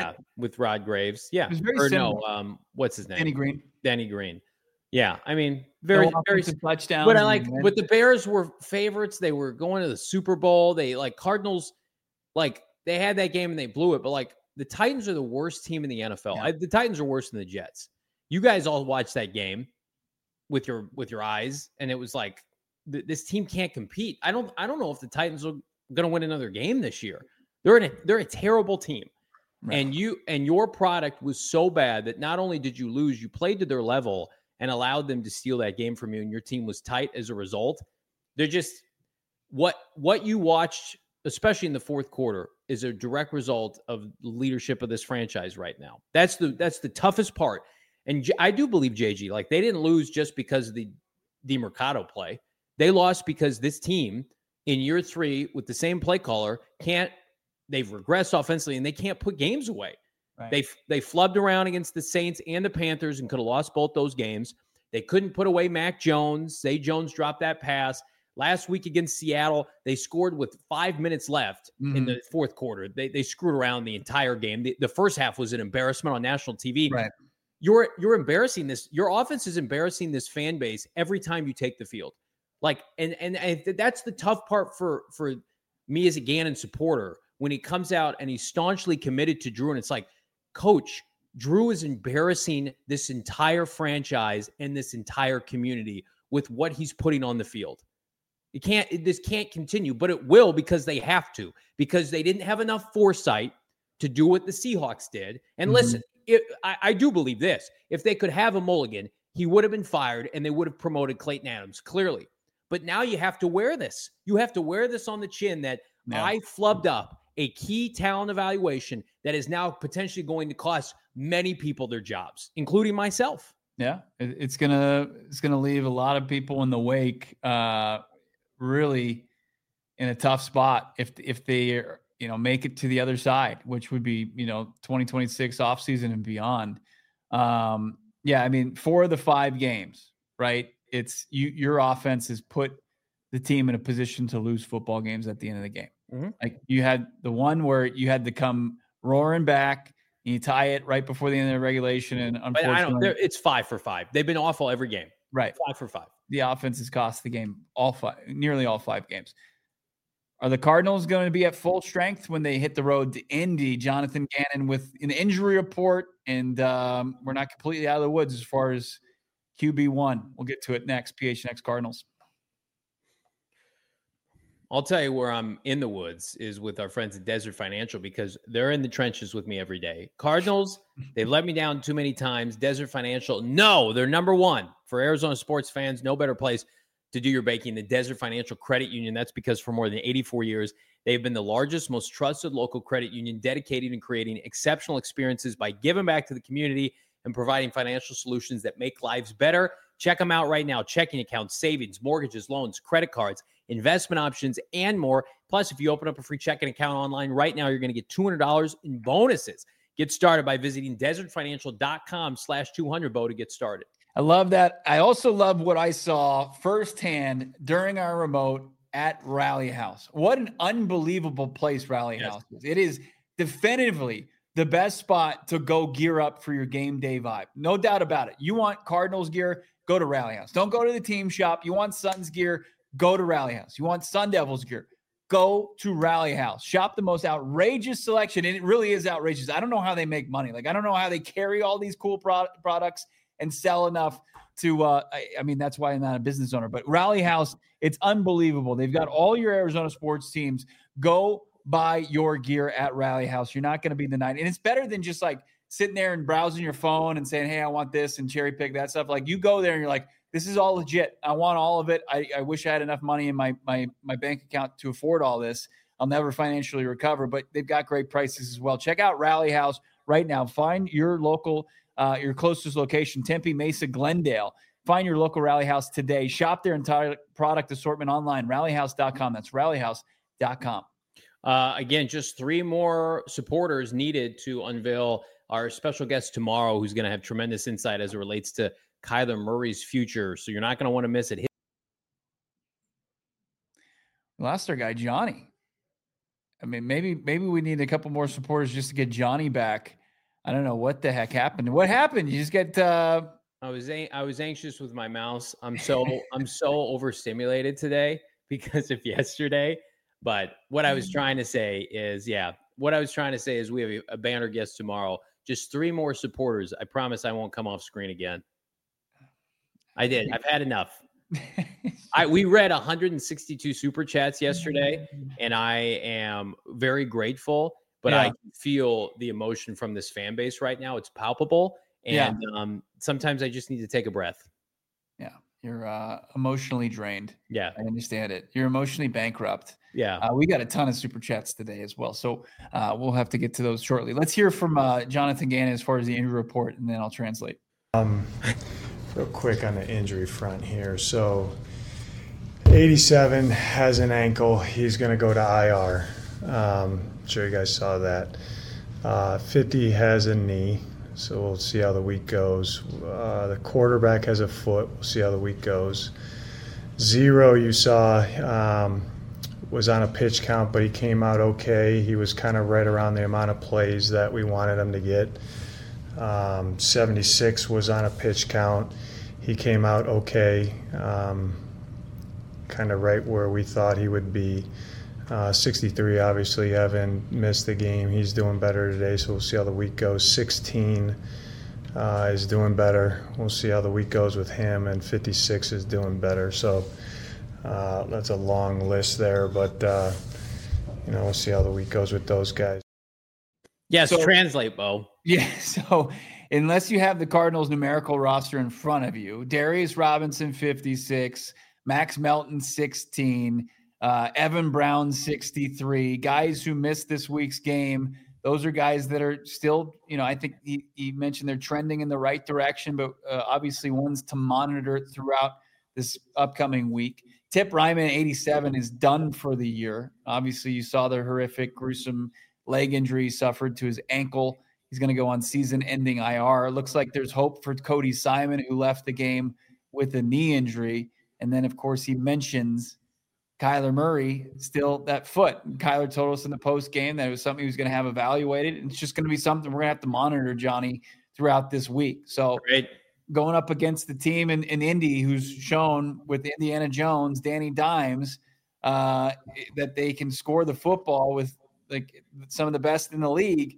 Rod Graves. Yeah. It was very similar. No, what's his name? Danny Green. Yeah. I mean, very touchdown. But but the Bears were favorites. They were going to the Super Bowl. They Cardinals, they had that game and they blew it. But the Titans are the worst team in the NFL. Yeah. The Titans are worse than the Jets. You guys all watched that game with your eyes, and it was like this team can't compete. I don't know if the Titans are going to win another game this year. They're a terrible team, right. And your product was so bad that not only did you lose, you played to their level and allowed them to steal that game from you, and your team was tight as a result. They're just what you watched, especially in the 4th quarter, is a direct result of the leadership of this franchise right now. That's the toughest part. And I do believe, JG, they didn't lose just because of the DeMercado play. They lost because this team in year 3 with the same play caller they've regressed offensively and they can't put games away. Right. They flubbed around against the Saints and the Panthers and could have lost both those games. They couldn't put away Mac Jones. Zay Jones dropped that pass. Last week against Seattle, they scored with 5 minutes left in the fourth quarter. They screwed around the entire game. The first half was an embarrassment on national TV. Right. You're embarrassing this. Your offense is embarrassing this fan base every time you take the field. Like, and that's the tough part for me as a Gannon supporter when he comes out and he's staunchly committed to Drew. And it's like, Coach, Drew is embarrassing this entire franchise and this entire community with what he's putting on the field. This can't continue, but it will because they have to, because they didn't have enough foresight to do what the Seahawks did. And listen, I do believe this. If they could have a mulligan, he would have been fired and they would have promoted Clayton Adams, clearly. But now you have to wear this. You have to wear this on the chin that I flubbed up a key talent evaluation that is now potentially going to cost many people their jobs, including myself. Yeah, it's gonna leave a lot of people in the wake, really in a tough spot if they make it to the other side, which would be 2026 offseason and beyond. Yeah, I mean, for the 5 games, right? It's your offense has put the team in a position to lose football games at the end of the game. Like you had the one where you had to come roaring back and you tie it right before the end of the regulation. And unfortunately, it's 5 for 5. They've been awful every game. Right. 5 for 5. The offense has cost the game nearly all 5 games. Are the Cardinals going to be at full strength when they hit the road to Indy? Jonathan Gannon with an injury report, and we're not completely out of the woods as far as QB1. We'll get to it next. PHNX Cardinals. I'll tell you where I'm in the woods is with our friends at Desert Financial, because they're in the trenches with me every day. Cardinals, they've let me down too many times. Desert Financial, no, they're number one. For Arizona sports fans, no better place to do your banking than Desert Financial Credit Union. That's because for more than 84 years, they've been the largest, most trusted local credit union dedicated in creating exceptional experiences by giving back to the community and providing financial solutions that make lives better. Check them out right now. Checking accounts, savings, mortgages, loans, credit cards, investment options, and more. Plus, if you open up a free checking account online right now, you're going to get $200 in bonuses. Get started by visiting desertfinancial.com/200, to get started. I love that. I also love what I saw firsthand during our remote at Rally House. What an unbelievable place Rally House is. It is definitively the best spot to go gear up for your game day vibe. No doubt about it. You want Cardinals gear, go to Rally House. Don't go to the team shop. You want Suns gear, go to Rally House. You want Sun Devils gear, go to Rally House. Shop the most outrageous selection, and it really is outrageous. I don't know how they make money. Like, I don't know how they carry all these cool products and sell enough to, I mean, that's why I'm not a business owner. But Rally House, it's unbelievable. They've got all your Arizona sports teams. Go buy your gear at Rally House. You're not going to be denied. And it's better than just like sitting there and browsing your phone and saying, hey, I want this, and cherry pick that stuff. Like, you go there and you're like, this is all legit. I want all of it. I wish I had enough money in my bank account to afford all this. I'll never financially recover, but they've got great prices as well. Check out Rally House right now. Find your local, your closest location, Tempe, Mesa, Glendale. Find your local Rally House today. Shop their entire product assortment online, rallyhouse.com. That's rallyhouse.com. Again, just 3 more supporters needed to unveil our special guest tomorrow, who's going to have tremendous insight as it relates to Kyler Murray's future. So you're not going to want to miss it. We lost our guy, Johnny. I mean, maybe we need a couple more supporters just to get Johnny back. I don't know what the heck happened. What happened? You just get, I was anxious with my mouse. I'm so overstimulated today because of yesterday. But what I was trying to say is, we have a banner guest tomorrow. Just 3 more supporters. I promise I won't come off screen again. I did. I've had enough. We read 162 super chats yesterday, and I am very grateful. But I can feel the emotion from this fan base right now. It's palpable, and sometimes I just need to take a breath. Yeah, you're emotionally drained. Yeah, I understand it. You're emotionally bankrupt. Yeah, we got a ton of super chats today as well, so we'll have to get to those shortly. Let's hear from Jonathan Gannon as far as the injury report, and then I'll translate. Real quick on the injury front here. So 87 has an ankle. He's going to go to IR. I'm sure you guys saw that. 50 has a knee, so we'll see how the week goes. The quarterback has a foot. We'll see how the week goes. Zero you saw was on a pitch count, but he came out okay. He was kind of right around the amount of plays that we wanted him to get. 76 was on a pitch count. He came out okay, kind of right where we thought he would be. 63, obviously, Evan missed the game. He's doing better today, so we'll see how the week goes. 16 is doing better. We'll see how the week goes with him, and 56 is doing better. So that's a long list there, but we'll see how the week goes with those guys. Yes, so, translate, Bo. Yeah, so unless you have the Cardinals numerical roster in front of you, Darius Robinson, 56, Max Melton, 16, Evan Brown, 63, guys who missed this week's game. Those are guys that are still, I think he mentioned they're trending in the right direction, but obviously ones to monitor throughout this upcoming week. Tip Ryman, 87, is done for the year. Obviously, you saw the horrific, gruesome leg injury he suffered to his ankle. He's going to go on season-ending IR. It looks like there's hope for Cody Simon, who left the game with a knee injury. And then, of course, he mentions Kyler Murray, still that foot. And Kyler told us in the post game that it was something he was going to have evaluated. And it's just going to be something we're going to have to monitor, Johnny, throughout this week. So going up against the team in Indy who's shown with Indiana Jones, Danny Dimes, that they can score the football with like some of the best in the league.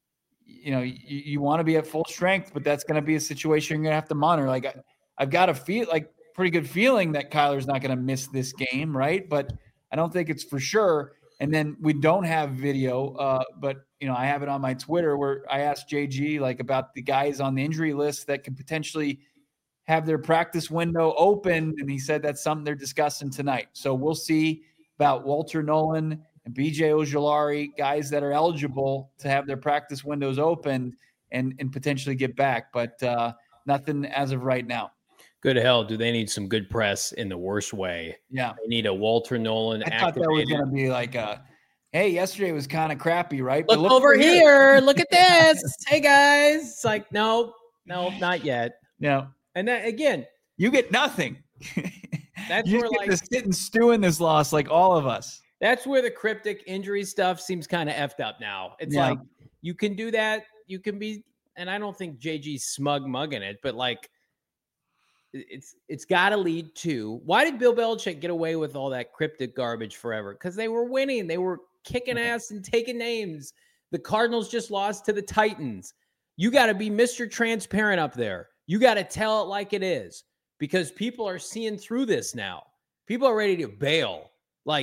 You want to be at full strength, but that's going to be a situation you're going to have to monitor. Like I've got a pretty good feeling that Kyler's not going to miss this game, right? But I don't think it's for sure. And then we don't have video, but I have it on my Twitter where I asked JG about the guys on the injury list that could potentially have their practice window open, and he said that's something they're discussing tonight. So we'll see about Walter Nolan and BJ Ojulari, guys that are eligible to have their practice windows open and potentially get back, but nothing as of right now. Good hell, do they need some good press in the worst way? Yeah. They need a Walter Nolan activated. I thought that was going to be like hey, yesterday was kind of crappy, right? Look over here. Look at this. Hey, guys. It's like, no, not yet. No. And then, again. You get nothing. That's you where, get to sit and stew in this loss like all of us. That's where the cryptic injury stuff seems kind of effed up now. It's like, you can do that. You can be, and I don't think JG's mugging it, but it's got to lead to, why did Bill Belichick get away with all that cryptic garbage forever? Because they were winning. They were kicking ass and taking names. The Cardinals just lost to the Titans. You got to be Mr. Transparent up there. You got to tell it like it is, because people are seeing through this now. People are ready to bail.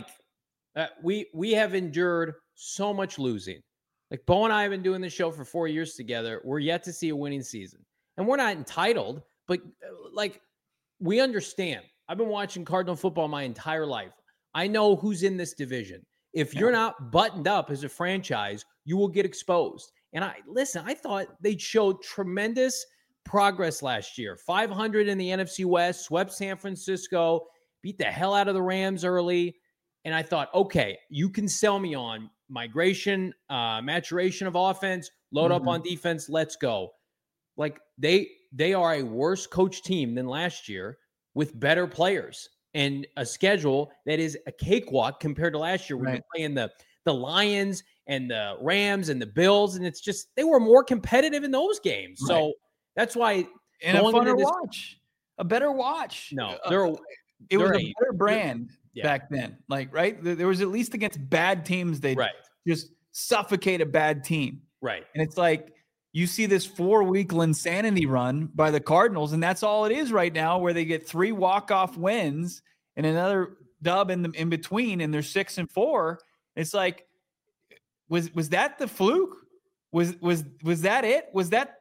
We have endured so much losing. Bo and I have been doing this show for 4 years together. We're yet to see a winning season. And we're not entitled, but we understand. I've been watching Cardinal football my entire life. I know who's in this division. If you're not buttoned up as a franchise, you will get exposed. And I thought they showed tremendous progress last year. 500 in the NFC West, swept San Francisco, beat the hell out of the Rams early. And I thought, okay, you can sell me on maturation of offense, load up on defense, let's go. They are a worse coach team than last year with better players and a schedule that is a cakewalk compared to last year when you're playing the Lions and the Rams and the Bills. And it's just, they were more competitive in those games. Right. So that's why. And a funner watch, a better watch. No, it was a better brand back then. There was at least against bad teams. They just suffocate a bad team. Right. And it's like, you see this 4-week insanity run by the Cardinals, and that's all it is right now, where they get 3 walk-off wins and another dub in between, and they're 6-4. It's like, was that the fluke? Was that it? Was that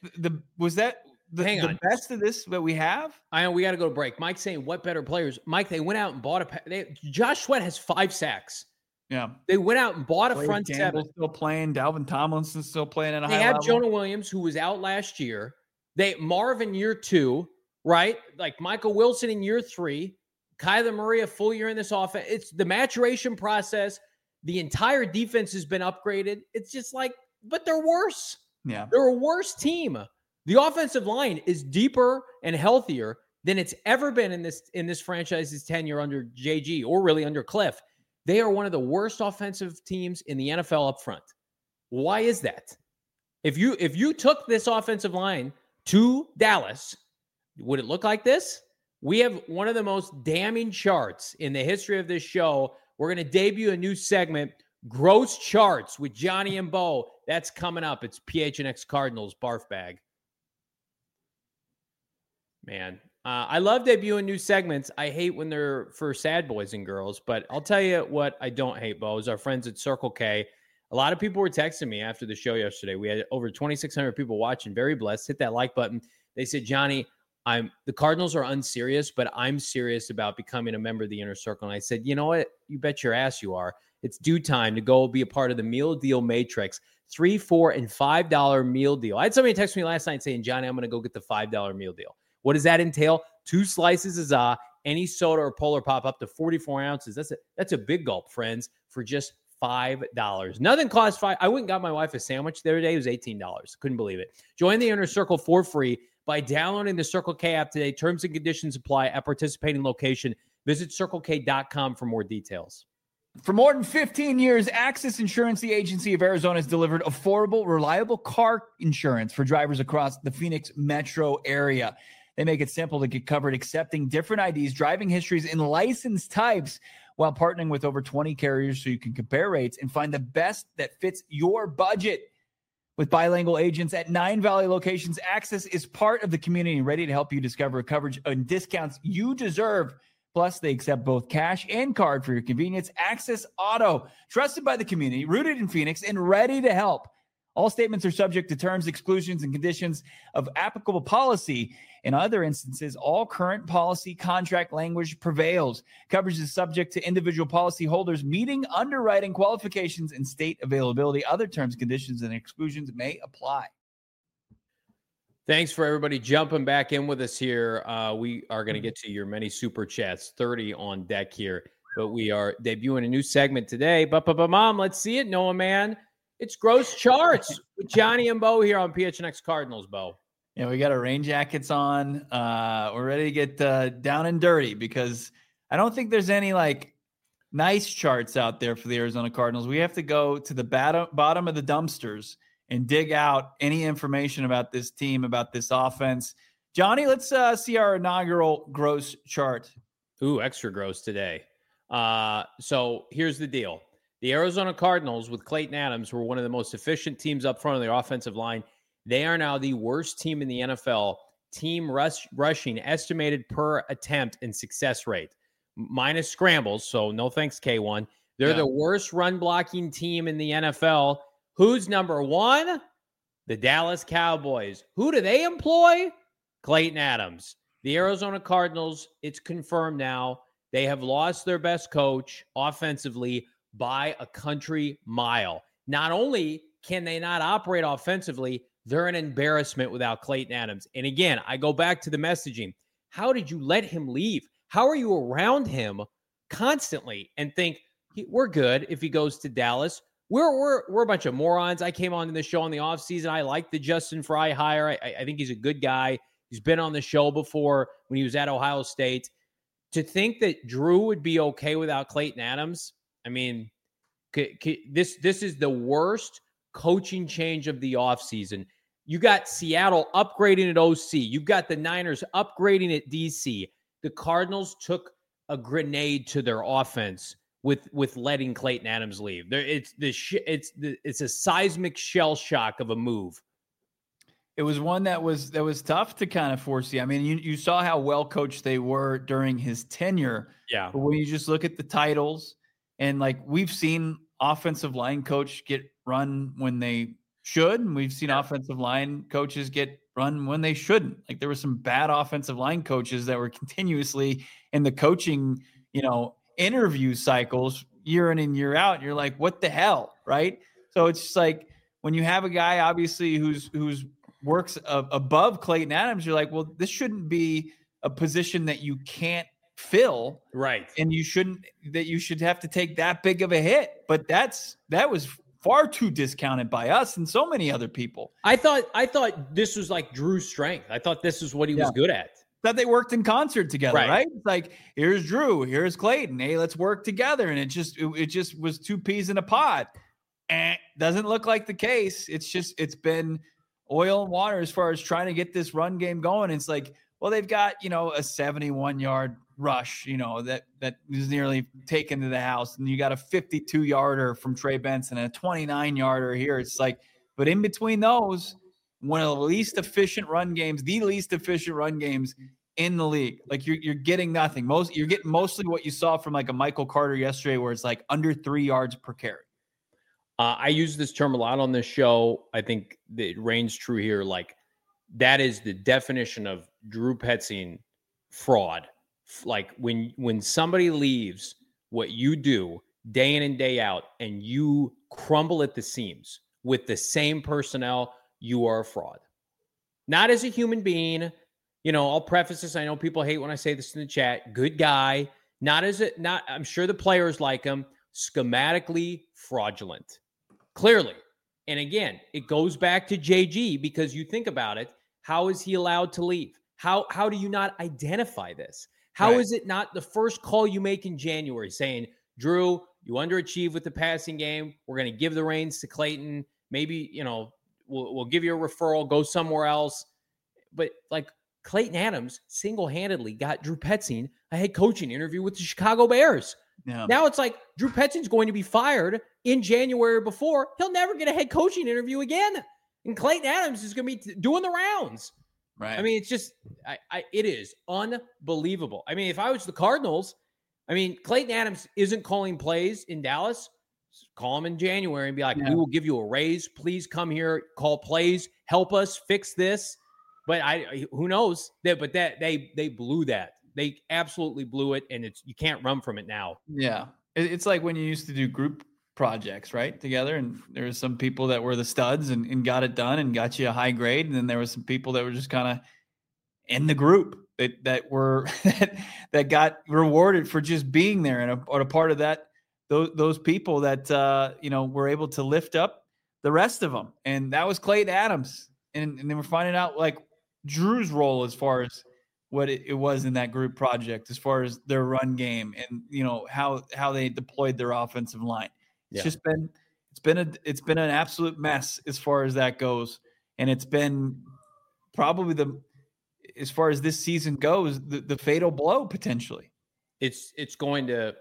the best of this that we have? I know we got to go to break. Mike's saying, what better players? Mike, they went out and bought Josh Sweat has 5 sacks. Yeah, they went out and bought a front seven. Still playing. Dalvin Tomlinson's still playing at a high level. They have Jonah Williams, who was out last year. Marvin year 2, right? Michael Wilson in year 3. Kyler Murray a full year in this offense. It's the maturation process. The entire defense has been upgraded. It's just but they're worse. Yeah, they're a worse team. The offensive line is deeper and healthier than it's ever been in this franchise's tenure under JG or really under Cliff. They are one of the worst offensive teams in the NFL up front. Why is that? If you took this offensive line to Dallas, would it look like this? We have one of the most damning charts in the history of this show. We're going to debut a new segment, Gross Charts with Johnny and Bo. That's coming up. It's PHNX Cardinals barf bag. Man, I love debuting new segments. I hate when they're for sad boys and girls, but I'll tell you what I don't hate, Bo, is our friends at Circle K. A lot of people were texting me after the show yesterday. We had over 2,600 people watching. Very blessed. Hit that like button. They said, Johnny, the Cardinals are unserious, but I'm serious about becoming a member of the Inner Circle. And I said, you know what? You bet your ass you are. It's due time to go be a part of the meal deal matrix. $3, $4, and $5 meal deal. I had somebody text me last night saying, Johnny, I'm going to go get the $5 meal deal. What does that entail? 2 slices of za, any soda or Polar Pop up to 44 ounces. That's a big gulp, friends, for just $5. Nothing costs $5. I went and got my wife a sandwich the other day. It was $18. Couldn't believe it. Join the Inner Circle for free by downloading the Circle K app today. Terms and conditions apply at participating location. Visit CircleK.com for more details. For more than 15 years, Access Insurance, the agency of Arizona, has delivered affordable, reliable car insurance for drivers across the Phoenix metro area. They make it simple to get covered, accepting different IDs, driving histories, and license types while partnering with over 20 carriers so you can compare rates and find the best that fits your budget. With bilingual agents at 9 Valley locations, Access is part of the community ready to help you discover coverage and discounts you deserve. Plus, they accept both cash and card for your convenience. Access Auto, trusted by the community, rooted in Phoenix, and ready to help. All statements are subject to terms, exclusions, and conditions of applicable policy. In other instances, all current policy contract language prevails. Coverage is subject to individual policy holders meeting underwriting qualifications and state availability. Other terms, conditions, and exclusions may apply. Thanks for everybody jumping back in with us here. We are going to get to your many super chats, 30 on deck here, but we are debuting a new segment today. But Mom, let's see it, Noah, man. It's Gross Charts with Johnny and Bo here on PHNX Cardinals, Bo. Yeah, we got our rain jackets on. We're ready to get down and dirty because I don't think there's any like nice charts out there for the Arizona Cardinals. We have to go to the bottom of the dumpsters and dig out any information about this team, about this offense. Johnny, let's see our inaugural gross chart. Ooh, extra gross today. So here's the deal. The Arizona Cardinals with Clayton Adams were one of the most efficient teams up front of their offensive line. They are now the worst team in the NFL. Team rushing estimated per attempt and success rate. Minus scrambles, so no thanks, K1. They're the worst run blocking team in the NFL. Who's number one? The Dallas Cowboys. Who do they employ? Clayton Adams. The Arizona Cardinals, it's confirmed now, they have lost their best coach offensively by a country mile. Not only can they not operate offensively, they're an embarrassment without Clayton Adams. And again, I go back to the messaging. How did you let him leave? How are you around him constantly and think we're good if he goes to Dallas? We're a bunch of morons. I came on to the show in the offseason. I like the Justin Fry hire. I think he's a good guy. He's been on the show before when he was at Ohio State. To think that Drew would be okay without Clayton Adams, I mean, this is the worst coaching change of the offseason. You got Seattle upgrading at OC. You've got the Niners upgrading at DC. The Cardinals took a grenade to their offense with letting Clayton Adams leave. It's a seismic shell shock of a move. It was one that was tough to kind of foresee. I mean, you saw how well coached they were during his tenure. Yeah. But when you just look at the titles, and like we've seen offensive line coach get run when they should, and we've seen offensive line coaches get run when they shouldn't. Like there were some bad offensive line coaches that were continuously in the coaching, interview cycles year in and year out. You're like, what the hell, right? So it's just like when you have a guy obviously who's works above Clayton Adams, you're like, well, this shouldn't be a position that you can't fill, right? And you should have to take that big of a hit. But that was far too discounted by us and so many other people. I thought this was like Drew's strength. I thought this is what he was good at. thought they worked in concert together, Right. right? It's like, here's Drew, here's Clayton. Hey, let's work together. And it just was two peas in a pod. Doesn't look like the case. It's been oil and water as far as trying to get this run game going. It's like, well, they've got, a 71-yard rush, that is nearly taken to the house. And you got a 52-yarder from Trey Benson and a 29-yarder here. It's like, but in between those, one of the least efficient run games, the least efficient run games in the league. Like you're getting nothing. You're getting mostly what you saw from like a Michael Carter yesterday, where it's like under 3 yards per carry. I use this term a lot on this show. I think that it reigns true here. Like, that is the definition of Drew Petzing fraud. Like when somebody leaves what you do day in and day out and you crumble at the seams with the same personnel, you are a fraud. Not as a human being. I'll preface this. I know people hate when I say this in the chat. Good guy. I'm sure the players like him. Schematically fraudulent. Clearly. And again, it goes back to JG, because you think about it. How is he allowed to leave? How do you not identify this? How is it not the first call you make in January saying, Drew, you underachieved with the passing game. We're going to give the reins to Clayton. Maybe, we'll give you a referral, go somewhere else. But like, Clayton Adams single-handedly got Drew Petzing a head coaching interview with the Chicago Bears. Yeah. Now it's like Drew Petzing's going to be fired in January before. He'll never get a head coaching interview again. And Clayton Adams is going to be doing the rounds. Right. I mean, it's just, it is unbelievable. I mean, if I was the Cardinals, Clayton Adams isn't calling plays in Dallas. Call him in January and be like, we will give you a raise. Please come here, call plays, help us fix this. But who knows? They blew that. They absolutely blew it, and you can't run from it now. Yeah. It's like when you used to do group projects, right, together, and there were some people that were the studs and got it done and got you a high grade, and then there were some people that were just kind of in the group that were that got rewarded for just being there, and a part of that, those people that were able to lift up the rest of them, and that was Clayton Adams, and then we're finding out like Drew's role as far as what it was in that group project, as far as their run game and how they deployed their offensive line. It's been an absolute mess as far as that goes, and it's been probably as far as this season goes, the fatal blow potentially. It's going to,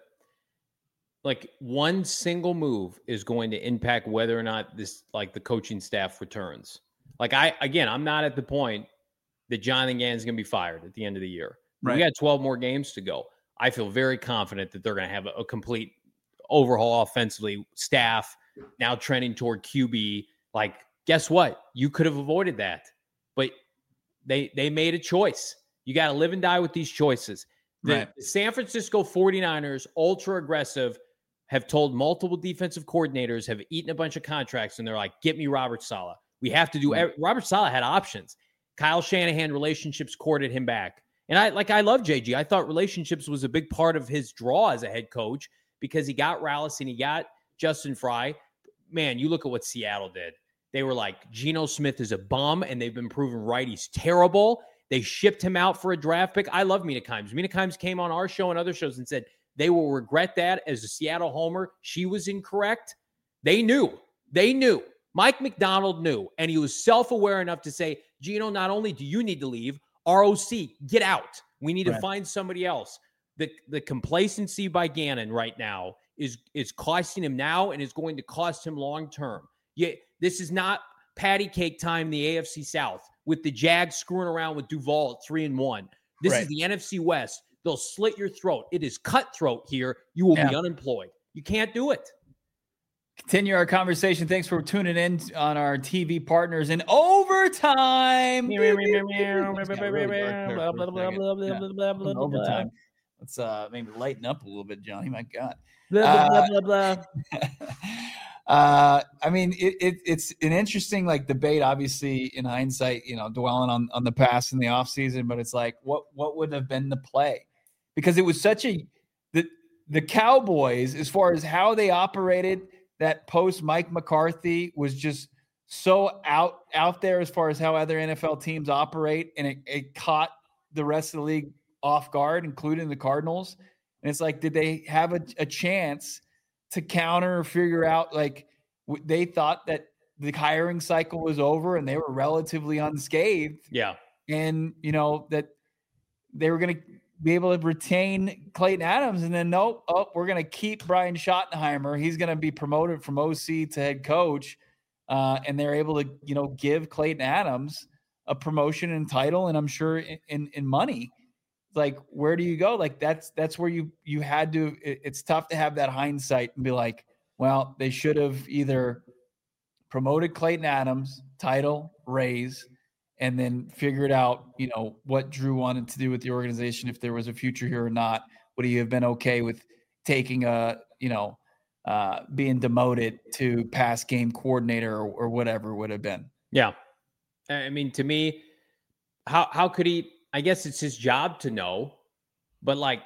like, one single move is going to impact whether or not the coaching staff returns. Like, I'm not at the point that Jonathan Gannon's going to be fired at the end of the year. Right. We got 12 more games to go. I feel very confident that they're going to have a complete overhaul offensively, staff now trending toward QB. Like, guess what? You could have avoided that, but they made a choice. You got to live and die with these choices. The San Francisco 49ers, ultra aggressive, have told multiple defensive coordinators, have eaten a bunch of contracts, and they're like, get me Robert Saleh. We have to do Robert Saleh had options. Kyle Shanahan relationships courted him back. And I love JG. I thought relationships was a big part of his draw as a head coach, because he got Rallis and he got Justin Fry. Man, you look at what Seattle did. They were like, Geno Smith is a bum, and they've been proven right. He's terrible. They shipped him out for a draft pick. I love Mina Kimes. Mina Kimes came on our show and other shows and said they will regret that as a Seattle homer. She was incorrect. They knew. Mike McDonald knew, and he was self-aware enough to say, Geno, not only do you need to leave, ROC, get out. We need to find somebody else. The complacency by Gannon right now is costing him now and is going to cost him long-term. This is not patty cake time in the AFC South with the Jags screwing around with Duval at 3-1. This is the NFC West. They'll slit your throat. It is cutthroat here. You will be unemployed. You can't do it. Continue our conversation. Thanks for tuning in on our TV partners in overtime. Overtime. Let's maybe lighten up a little bit, Johnny. My God. I mean, it's an interesting like debate, obviously, in hindsight, dwelling on the past and the offseason, but it's like, what would have been the play? Because it was such the Cowboys, as far as how they operated that post Mike McCarthy, was just so out there as far as how other NFL teams operate, and it caught the rest of the league off guard, including the Cardinals. And it's like, did they have a chance to counter or figure out, like, they thought that the hiring cycle was over and they were relatively unscathed. Yeah. And, that they were going to be able to retain Clayton Adams, and then we're going to keep Brian Schottenheimer. He's going to be promoted from OC to head coach. And they're able to, give Clayton Adams a promotion and title, and I'm sure in money. Like, where do you go? Like, that's where you had to. It's tough to have that hindsight and be like, well, they should have either promoted Clayton Adams, title, raise, and then figured out, what Drew wanted to do with the organization, if there was a future here or not. Would he have been okay with taking being demoted to pass game coordinator or whatever it would have been? Yeah. I mean, to me, how could he? I guess it's his job to know, but like,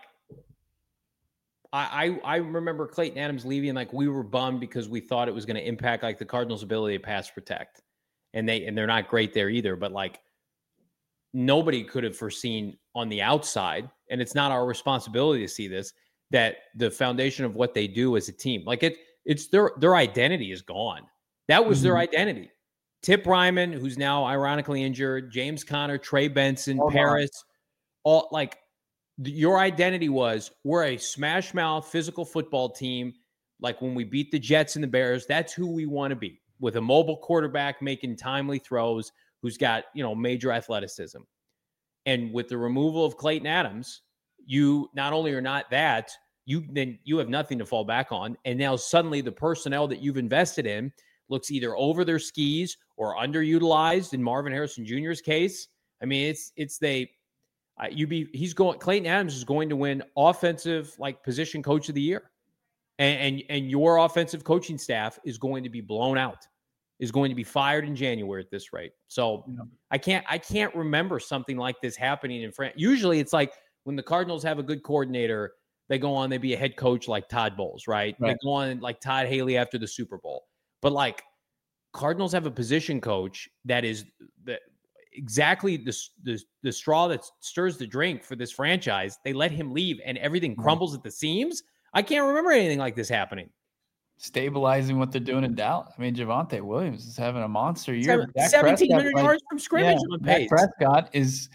I remember Clayton Adams leaving, like, we were bummed because we thought it was going to impact like the Cardinals' ability to pass protect, and they're not great there either. But like, nobody could have foreseen on the outside, and it's not our responsibility to see this, that the foundation of what they do as a team, like it's their identity is gone. That was their identity. Tip Ryman, who's now ironically injured, James Conner, Trey Benson, Paris, all like, your identity was, we're a smash mouth physical football team. Like when we beat the Jets and the Bears, that's who we want to be, with a mobile quarterback making timely throws, who's got, major athleticism. And with the removal of Clayton Adams, you not only are not that, you have nothing to fall back on. And now suddenly the personnel that you've invested in looks either over their skis or underutilized in Marvin Harrison Jr.'s case. I mean, Clayton Adams is going to win offensive, like, position coach of the year. And your offensive coaching staff is going to be blown out, is going to be fired in January at this rate. So I can't remember something like this happening in France. Usually it's like when the Cardinals have a good coordinator, they go on, they be a head coach like Todd Bowles, right? They go on like Todd Haley after the Super Bowl. But like, Cardinals have a position coach that is exactly the straw that stirs the drink for this franchise. They let him leave and everything crumbles at the seams. I can't remember anything like this happening. Stabilizing what they're doing in Dallas. I mean, Javonte Williams is having a monster year. 1,700 yards from scrimmage on pace. Dak Prescott is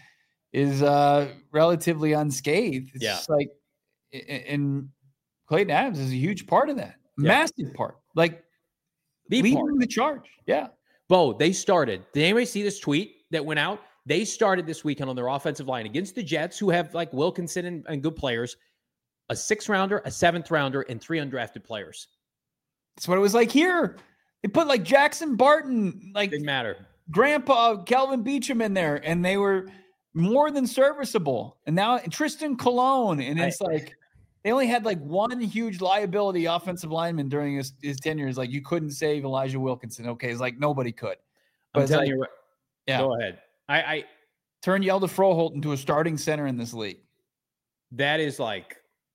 relatively unscathed. It's just like, and Clayton Adams is a huge part of that. Massive part. Like, leading the charge. Yeah. Bo, they started. Did anybody see this tweet that went out? They started this weekend on their offensive line against the Jets, who have like Wilkinson and good players, a 6th-rounder, a 7th-rounder, and 3 undrafted players. That's what it was like here. They put like Jackson Barton, like, didn't matter, Grandpa Kelvin Beachum in there, and they were more than serviceable. And now Tristan Colon, and it's like they only had like one huge liability offensive lineman during his tenure. Is like, you couldn't save Elijah Wilkinson. Okay, it's like nobody could. But I'm telling you, go ahead. I turn Yelda Froholt into a starting center in this league. That is like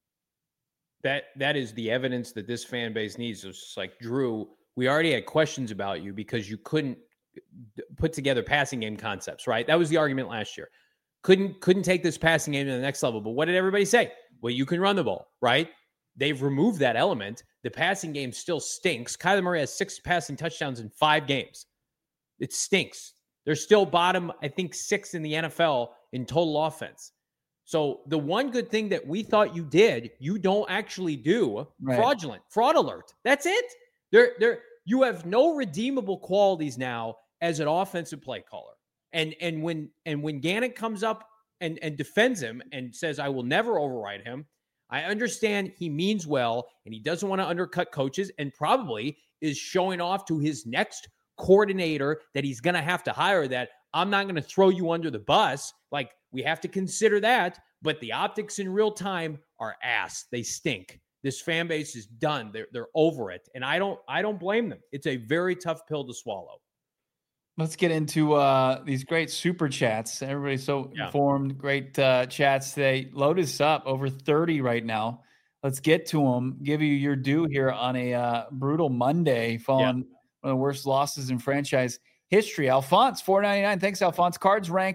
that is the evidence that this fan base needs. It's just like, Drew, we already had questions about you because you couldn't put together passing game concepts, right? That was the argument last year. Couldn't take this passing game to the next level. But what did everybody say? Well, you can run the ball, right? They've removed that element. The passing game still stinks. Kyler Murray has 6 passing touchdowns in 5 games. It stinks. They're still bottom, I think, 6 in the NFL in total offense. So the one good thing that we thought you did, you don't actually do. Right. Fraud alert. That's it. You have no redeemable qualities now as an offensive play caller. And when Gannon comes up and defends him and says, I will never override him, I understand he means well and he doesn't want to undercut coaches and probably is showing off to his next coordinator that he's going to have to hire, that I'm not going to throw you under the bus. Like, we have to consider that, but the optics in real time are ass. They stink. This fan base is done. They're over it. And I don't blame them. It's a very tough pill to swallow. Let's get into these great super chats. Everybody's so informed. Great chats today. Load us up, over 30 right now. Let's get to them. Give you your due here on a brutal Monday following one of the worst losses in franchise history. Alphonse, $4.99. Thanks, Alphonse. Cards rank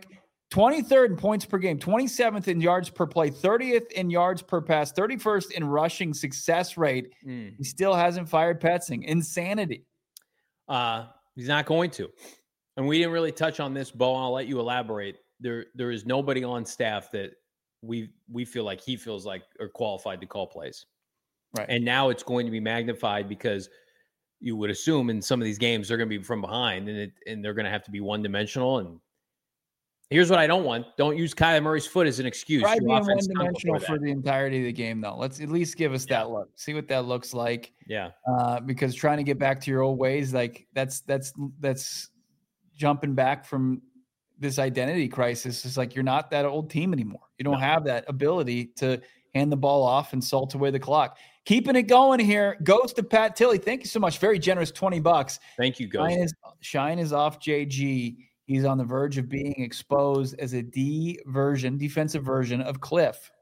23rd in points per game, 27th in yards per play, 30th in yards per pass, 31st in rushing success rate. He still hasn't fired Petzing. Insanity. He's not going to. And we didn't really touch on this, Bo, and I'll let you elaborate. There is nobody on staff that we feel like he feels like are qualified to call plays. Right. And now it's going to be magnified because you would assume in some of these games they're going to be from behind and they're going to have to be one-dimensional. And here's what I don't want. Don't use Kyler Murray's foot as an excuse. Try being one-dimensional for the entirety of the game, though. Let's at least give us that look. See what that looks like. Yeah. Because trying to get back to your old ways, like that's jumping back from this identity crisis. It's like you're not that old team anymore. You don't have that ability to hand the ball off and salt away the clock. Keeping it going here. Goes to Pat Tilley. Thank you so much. Very generous, $20. Thank you, Ghost. Shine is off JG. He's on the verge of being exposed as a defensive version of Cliff.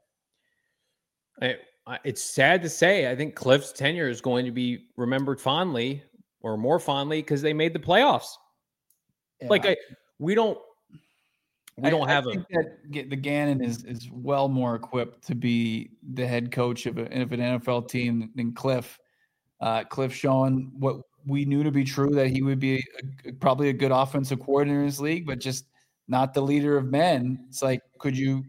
It's sad to say. I think Cliff's tenure is going to be remembered fondly or more fondly because they made the playoffs. Yeah. We don't have think that the Gannon is well more equipped to be the head coach of an NFL team than Cliff. Cliff showing what we knew to be true, that he would be probably a good offensive coordinator in this league, but just not the leader of men. It's like, could you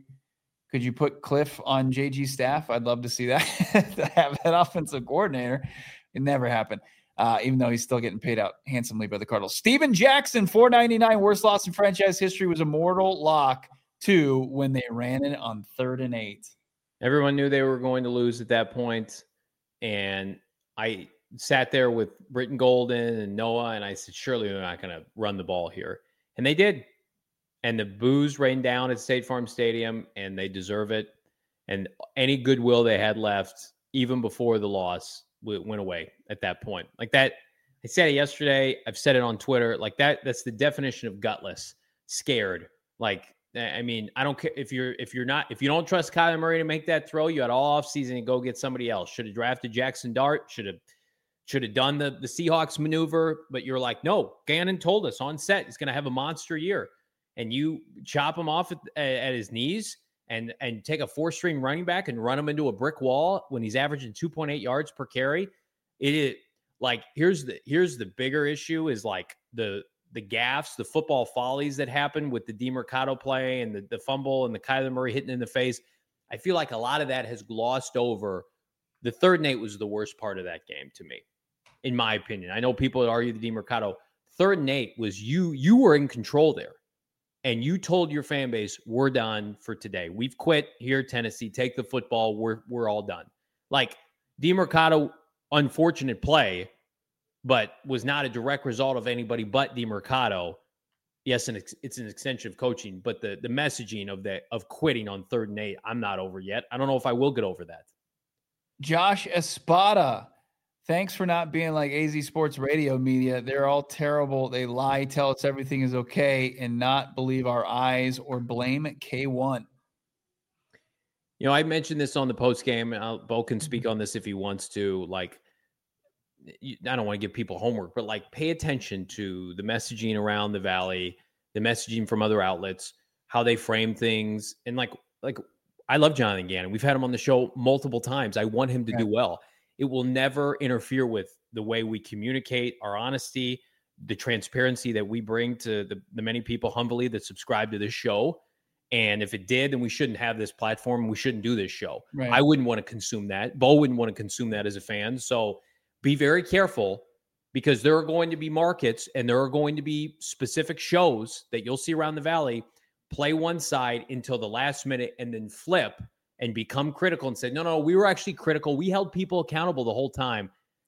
put Cliff on JG's staff? I'd love to see that, to have that offensive coordinator. It never happened, even though he's still getting paid out handsomely by the Cardinals. Steven Jackson, $4.99, worst loss in franchise history, was a mortal lock too when they ran it on 3rd and 8. Everyone knew they were going to lose at that point, and I sat there with Britton Golden and Noah, and I said, surely they're not going to run the ball here. And they did. And the boos rained down at State Farm Stadium, and they deserve it. And any goodwill they had left, even before the loss, went away at that point. Like that, I said it yesterday. I've said it on Twitter. Like that's the definition of gutless, scared. Like, I mean, I don't care if you don't trust Kyler Murray to make that throw, you had all offseason to go get somebody else. Should have drafted Jackson Dart. Should have done the Seahawks maneuver, but you're like, no, Gannon told us on set he's going to have a monster year. And you chop him off at his knees and take a 4-string running back and run him into a brick wall when he's averaging 2.8 yards per carry. It is like, here's the bigger issue is like the gaffes, the football follies that happened with the DeMercado play and the fumble and the Kyler Murray hitting in the face. I feel like a lot of that has glossed over. The 3rd and 8 was the worst part of that game to me, in my opinion. I know people would argue the DeMercado. 3rd and 8 was you were in control there. And you told your fan base, we're done for today. We've quit here, Tennessee. Take the football. We're all done. Like, DeMercado, unfortunate play, but was not a direct result of anybody but DeMercado. Yes, and it's an extension of coaching, but the messaging of quitting on 3rd and 8, I'm not over yet. I don't know if I will get over that. Josh Espada. Thanks for not being like AZ Sports Radio media. They're all terrible. They lie, tell us everything is okay, and not believe our eyes or blame K1. You know, I mentioned this on the post game. Bo can speak on this if he wants to. Like, I don't want to give people homework, but like, pay attention to the messaging around the Valley, the messaging from other outlets, how they frame things. And like I love Jonathan Gannon. We've had him on the show multiple times. I want him to do well. It will never interfere with the way we communicate, our honesty, the transparency that we bring to the many people humbly that subscribe to this show. And if it did, then we shouldn't have this platform. We shouldn't do this show. Right. I wouldn't want to consume that. Bo wouldn't want to consume that as a fan. So be very careful, because there are going to be markets and there are going to be specific shows that you'll see around the Valley play one side until the last minute and then flip and become critical and say, no, we were actually critical. We held people accountable the whole time.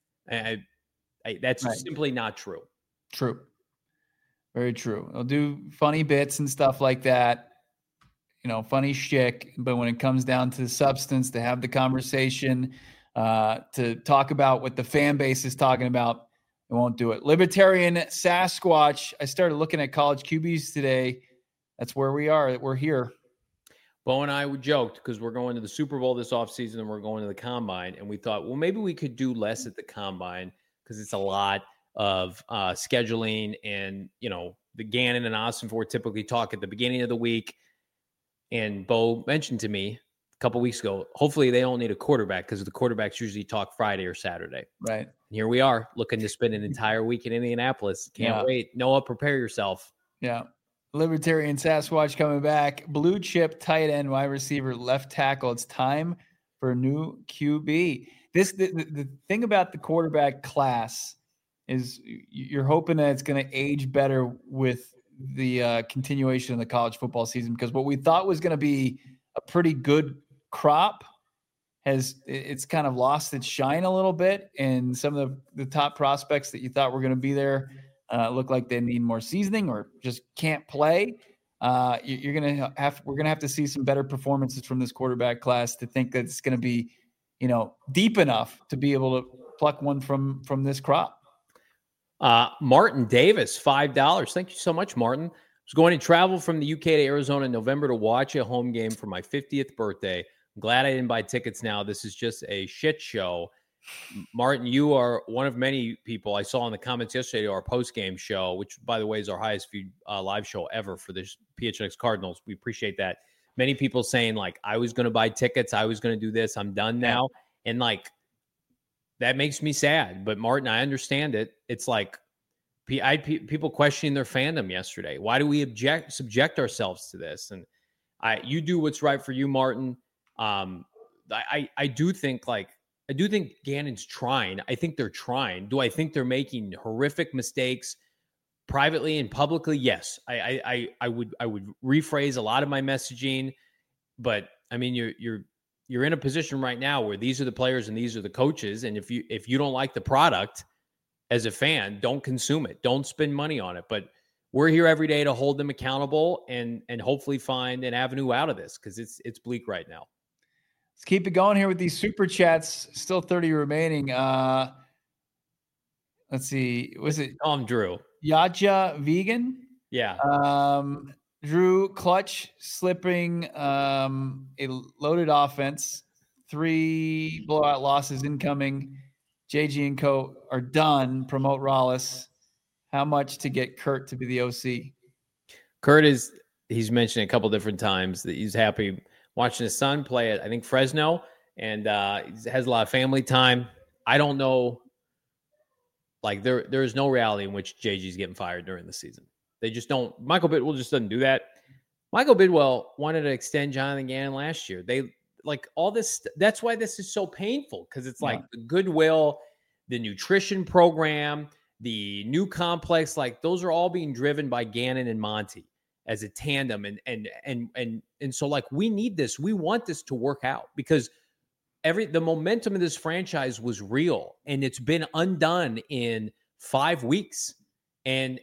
That's simply not true. True. Very true. They'll do funny bits and stuff like that, funny shtick. But when it comes down to the substance, to have the conversation, to talk about what the fan base is talking about, they won't do it. Libertarian Sasquatch. I started looking at college QBs today. That's where we are. We're here. Bo and I joked because we're going to the Super Bowl this offseason and we're going to the Combine. And we thought, well, maybe we could do less at the Combine because it's a lot of scheduling. And, the Gannon and Ossenfort typically talk at the beginning of the week. And Bo mentioned to me a couple weeks ago, hopefully they don't need a quarterback because the quarterbacks usually talk Friday or Saturday. Right. And here we are looking to spend an entire week in Indianapolis. Can't wait. Noah, prepare yourself. Yeah. Libertarian Sasquatch coming back. Blue chip, tight end, wide receiver, left tackle. It's time for a new QB. The thing about the quarterback class is you're hoping that it's going to age better with the continuation of the college football season, because what we thought was going to be a pretty good crop it's kind of lost its shine a little bit, and some of the top prospects that you thought were going to be there look like they need more seasoning or just can't play. We're going to have to see some better performances from this quarterback class to think that it's going to be, deep enough to be able to pluck one from this crop. Martin Davis, $5. Thank you so much, Martin. I was going to travel from the UK to Arizona in November to watch a home game for my 50th birthday. I'm glad I didn't buy tickets now. This is just a shit show. Martin, you are one of many people I saw in the comments yesterday to our post-game show, which, by the way, is our highest viewed live show ever for the PHNX Cardinals. We appreciate that. Many people saying, like, I was going to buy tickets. I was going to do this. I'm done now. And, like, that makes me sad. But, Martin, I understand it. It's like people questioning their fandom yesterday. Why do we subject ourselves to this? And you do what's right for you, Martin. I do think Gannon's trying. I think they're trying. Do I think they're making horrific mistakes privately and publicly? Yes. I would rephrase a lot of my messaging, but I mean, you're in a position right now where these are the players and these are the coaches. And if you don't like the product as a fan, don't consume it. Don't spend money on it. But we're here every day to hold them accountable and hopefully find an avenue out of this, because it's bleak right now. Let's keep it going here with these super chats. Still 30 remaining. Let's see. Was it Drew? Yaja Vegan? Yeah. Drew clutch slipping a loaded offense. 3 blowout losses incoming. JG and Co. are done. Promote Rollis. How much to get Kurt to be the OC? Kurt he's mentioned a couple different times that he's happy watching his son play at, I think, Fresno, and he has a lot of family time. I don't know. Like, there is no reality in which JG's getting fired during the season. They just don't. Michael Bidwell just doesn't do that. Michael Bidwell wanted to extend Jonathan Gannon last year. They like all this. That's why this is so painful, because it's like the goodwill, the nutrition program, the new complex. Like, those are all being driven by Gannon and Monty as a tandem. And so, like, we need this. We want this to work out, because the momentum of this franchise was real, and it's been undone in 5 weeks. And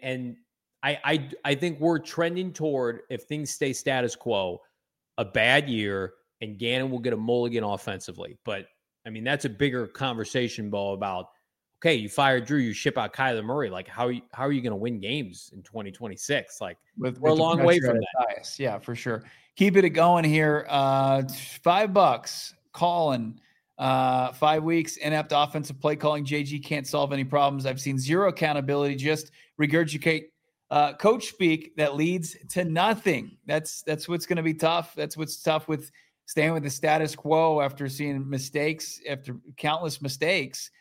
I think we're trending toward, if things stay status quo, a bad year, and Gannon will get a mulligan offensively. But I mean, that's a bigger conversation, Bo, about, okay, you fired Drew, you ship out Kyler Murray. Like, how are you going to win games in 2026? Like, we're a long way from that. Bias. Yeah, for sure. Keep it going here. $5. Colin, 5 weeks, inept offensive play calling. JG can't solve any problems. I've seen zero accountability. Just regurgitate coach speak that leads to nothing. That's what's going to be tough. That's what's tough with staying with the status quo after seeing mistakes, after countless mistakes.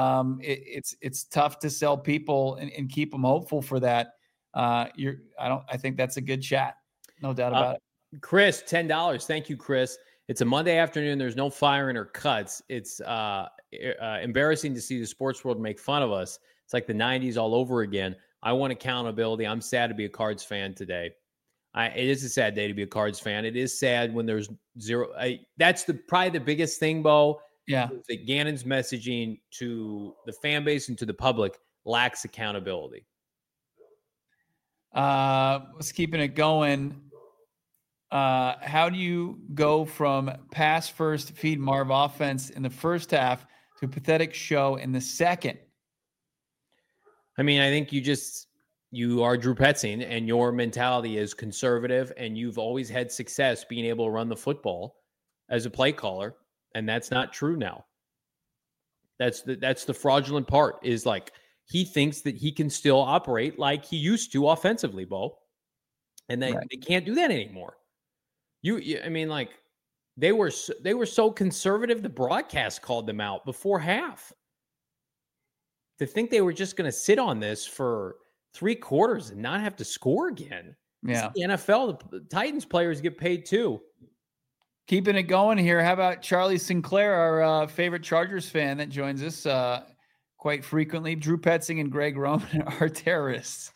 It's tough to sell people and keep them hopeful for that. I think that's a good chat. No doubt about it. Chris, $10. Thank you, Chris. It's a Monday afternoon. There's no firing or cuts. It's embarrassing to see the sports world make fun of us. It's like the 90s all over again. I want accountability. I'm sad to be a Cards fan today. It is a sad day to be a Cards fan. It is sad when there's zero. That's probably the biggest thing, Bo. Yeah. That Gannon's messaging to the fan base and to the public lacks accountability. Let's keeping it going. How do you go from pass first, feed Marv offense in the first half to a pathetic show in the second? I mean, I think you are Drew Petzing, and your mentality is conservative, and you've always had success being able to run the football as a play caller, and that's not true now. That's the fraudulent part, is like he thinks that he can still operate like he used to offensively, Bo, and they can't do that anymore. I mean, like they were so conservative. The broadcast called them out before half. To think they were just going to sit on this for 3 quarters and not have to score again. Yeah. The NFL, the Titans players get paid too. Keeping it going here. How about Charlie Sinclair, our favorite Chargers fan that joins us quite frequently? Drew Petzing and Greg Roman are terrorists.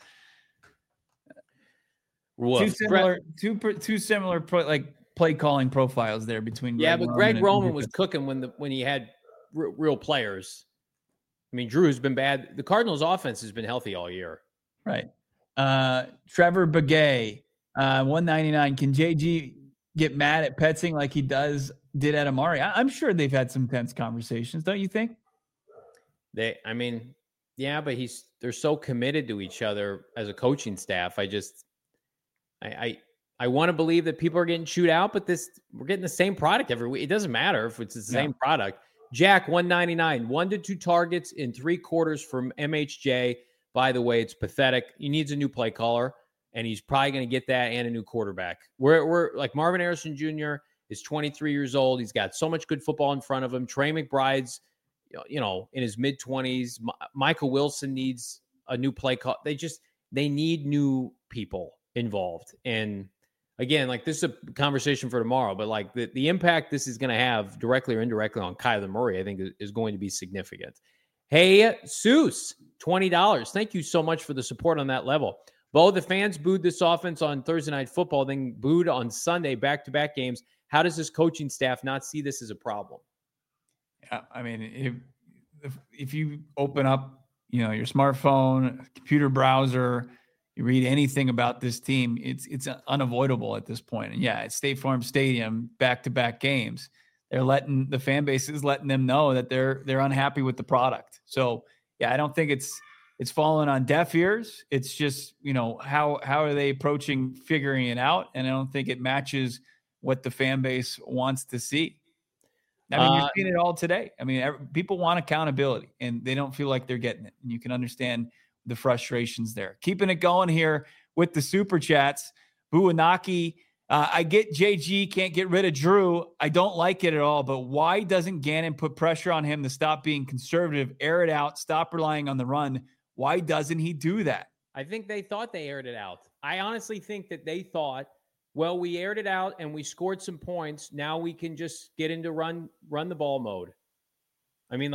Woof. Two similar play calling profiles there between. Greg Roman was cooking when he had real players. I mean, Drew's been bad. The Cardinals' offense has been healthy all year. Right. Trevor Begay, 199. Can JG get mad at Petzing like he did at Amari? I'm sure they've had some tense conversations, don't you think? But they're so committed to each other as a coaching staff. I want to believe that people are getting chewed out, but we're getting the same product every week. It doesn't matter if it's the same product. Jack, 199, 1 to 2 targets in 3 quarters from MHJ. By the way, it's pathetic. He needs a new play caller, and he's probably going to get that and a new quarterback. We're like Marvin Harrison Jr. is 23 years old. He's got so much good football in front of him. Trey McBride's, in his mid-20s. Michael Wilson needs a new play call. They need new people involved. And again, like this is a conversation for tomorrow, but like the impact this is going to have directly or indirectly on Kyler Murray, I think is going to be significant. Hey, Seuss, $20. Thank you so much for the support on that level. Bo, the fans booed this offense on Thursday Night Football, then booed on Sunday, back-to-back games. How does this coaching staff not see this as a problem? Yeah, I mean, if you open up, your smartphone, computer browser, you read anything about this team, it's unavoidable at this point. And it's State Farm Stadium, back-to-back games. The fan base is letting them know that they're unhappy with the product. So I don't think it's fallen on deaf ears. It's just, how are they approaching figuring it out? And I don't think it matches what the fan base wants to see. I mean, you've seen it all today. I mean, people want accountability and they don't feel like they're getting it. And you can understand the frustrations there. Keeping it going here with the super chats. Buanaki, I get JG can't get rid of Drew. I don't like it at all, but why doesn't Gannon put pressure on him to stop being conservative, air it out, stop relying on the run? Why doesn't he do that? I think they thought they aired it out. I honestly think that they thought, well, we aired it out and we scored some points. Now we can just get into run the ball mode. I mean,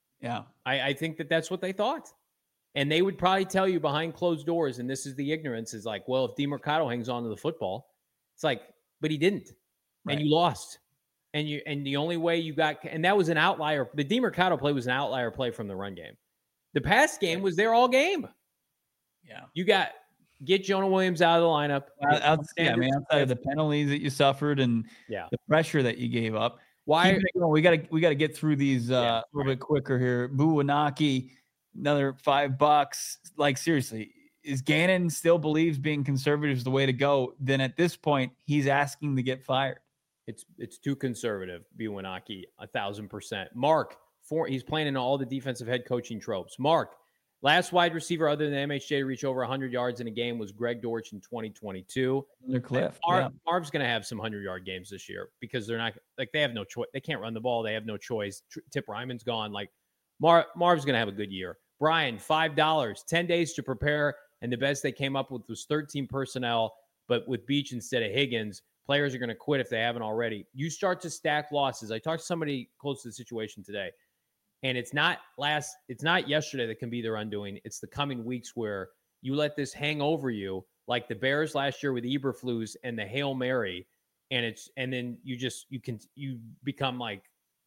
I think that that's what they thought. And they would probably tell you behind closed doors, and this is the ignorance, is like, well, if DeMercado hangs on to the football, it's like, but he didn't. Right. And you lost. And the only way you got, and that was an outlier. The DeMercado play was an outlier play from the run game. The pass game was there all game. Yeah. You get Jonah Williams out of the lineup. Outside of the penalties that you suffered and the pressure that you gave up. Why? We got to get through these a little bit quicker here. Buanaki, another $5. Like, seriously, is Gannon still believes being conservative is the way to go? Then at this point, he's asking to get fired. It's too conservative. Buanaki, 1,000%. Mark, he's playing in all the defensive head coaching tropes. Mark, last wide receiver other than MHJ to reach over 100 yards in a game was Greg Dortch in 2022. Cliff. Marv's going to have some 100-yard games this year because they're not – they have no choice. They can't run the ball. They have no choice. Tip Ryman's gone. Marv's going to have a good year. Brian, $5, 10 days to prepare, and the best they came up with was 13 personnel, but with Beach instead of Higgins. Players are going to quit if they haven't already. You start to stack losses. I talked to somebody close to the situation today, and it's not yesterday that can be their undoing. It's the coming weeks where you let this hang over you, like the Bears last year with Eberflus and the Hail Mary, and then you become like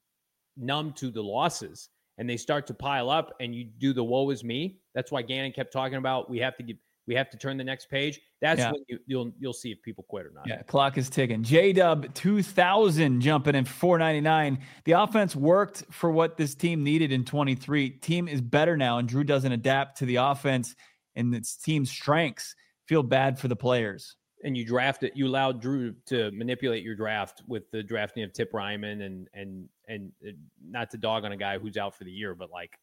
numb to the losses. And they start to pile up, and you do the woe is me. That's why Gannon kept talking about we have to turn the next page. That's when you'll see if people quit or not. Yeah, clock is ticking. J-Dub 2000 jumping in $4.99. The offense worked for what this team needed in 23. Team is better now, and Drew doesn't adapt to the offense and its team's strengths. Feel bad for the players. And you allowed Drew to manipulate your draft with the drafting of Tip Ryman and not to dog on a guy who's out for the year, but like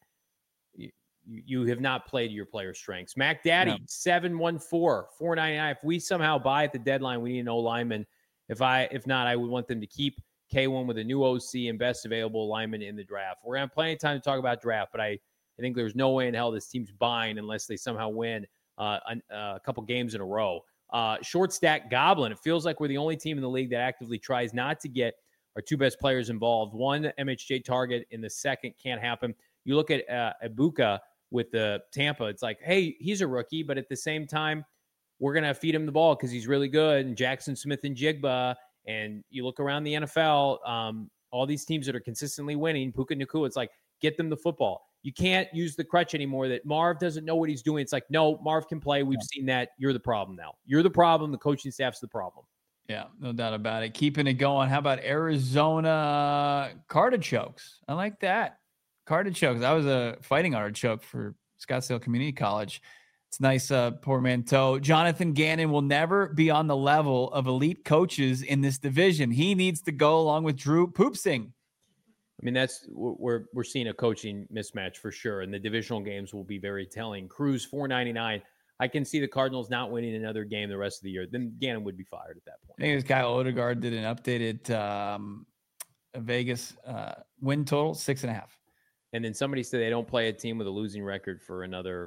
you have not played your player's strengths. Mac Daddy, 714, $4.99. If we somehow buy at the deadline, we need an O-lineman. If not, I would want them to keep K1 with a new OC and best available alignment in the draft. We're going to have plenty of time to talk about draft, but I think there's no way in hell this team's buying unless they somehow win a couple games in a row. Short stack Goblin. It feels like we're the only team in the league that actively tries not to get our two best players involved. One MHJ target in the second can't happen. You look at Ibuka with the Tampa. It's like, hey, he's a rookie, but at the same time, we're going to feed him the ball because he's really good. And Jackson Smith and Jigba. And you look around the NFL, all these teams that are consistently winning, Puka Nacua, it's like, get them the football. You can't use the crutch anymore that Marv doesn't know what he's doing. It's like, no, Marv can play. We've seen that. You're the problem now. You're the problem. The coaching staff's the problem. Yeah, no doubt about it. Keeping it going. How about Arizona Cartichokes? I like that. Cartichokes. I was a fighting artichoke for Scottsdale Community College. It's nice, portmanteau. Jonathan Gannon will never be on the level of elite coaches in this division. He needs to go along with Drew Poopsing. I mean, we're seeing a coaching mismatch for sure, and the divisional games will be very telling. Cruz $4.99. I can see the Cardinals not winning another game the rest of the year. Then Gannon would be fired at that point. I think this guy Odegaard did an updated Vegas win total 6.5. And then somebody said they don't play a team with a losing record for another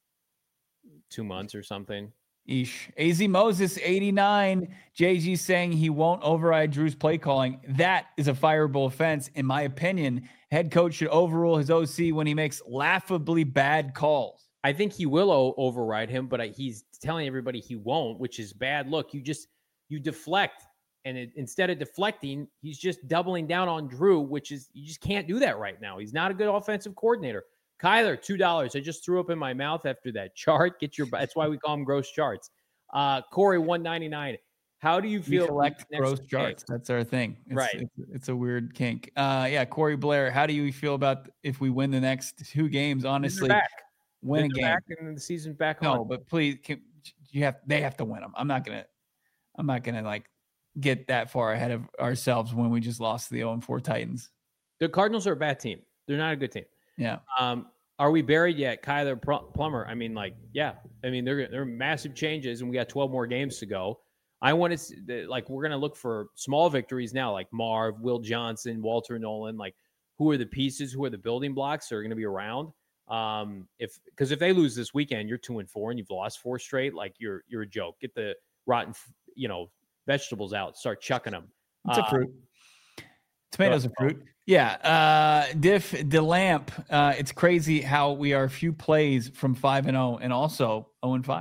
2 months or something. Eesh. AZ Moses 89. JG saying he won't override Drew's play calling. That is a fireable offense. In my opinion, head coach should overrule his OC when he makes laughably bad calls. I think he will override him, but he's telling everybody he won't, which is bad. Look, you deflect, and instead of deflecting, he's just doubling down on Drew, which is, you just can't do that right now. He's not a good offensive coordinator. Kyler, $2. I just threw up in my mouth after that chart. That's why we call them gross charts. Corey, $1.99. How do you feel? We collect gross charts. That's our thing. It's a weird kink. Corey Blair, how do you feel about if we win the next 2 games? Honestly, win a game. Back and the season's back on. No, but please, they have to win them. I'm not gonna like get that far ahead of ourselves when we just lost to the 0-4 Titans. The Cardinals are a bad team. They're not a good team. Yeah. Are we buried yet? Kyler Plummer. I mean, yeah. I mean, there are massive changes, and we got 12 more games to go. I want to we're going to look for small victories now, like Marv, Will Johnson, Walter Nolan. Like, who are the pieces? Who are the building blocks that are going to be around? Because if they lose this weekend, you're 2-4 and you've lost 4 straight. Like, you're a joke. Get the rotten, vegetables out. Start chucking them. It's a fruit. Tomatoes are fruit. Yeah. Diff DeLamp. It's crazy how we are a few plays from 5-0 and also 0-5.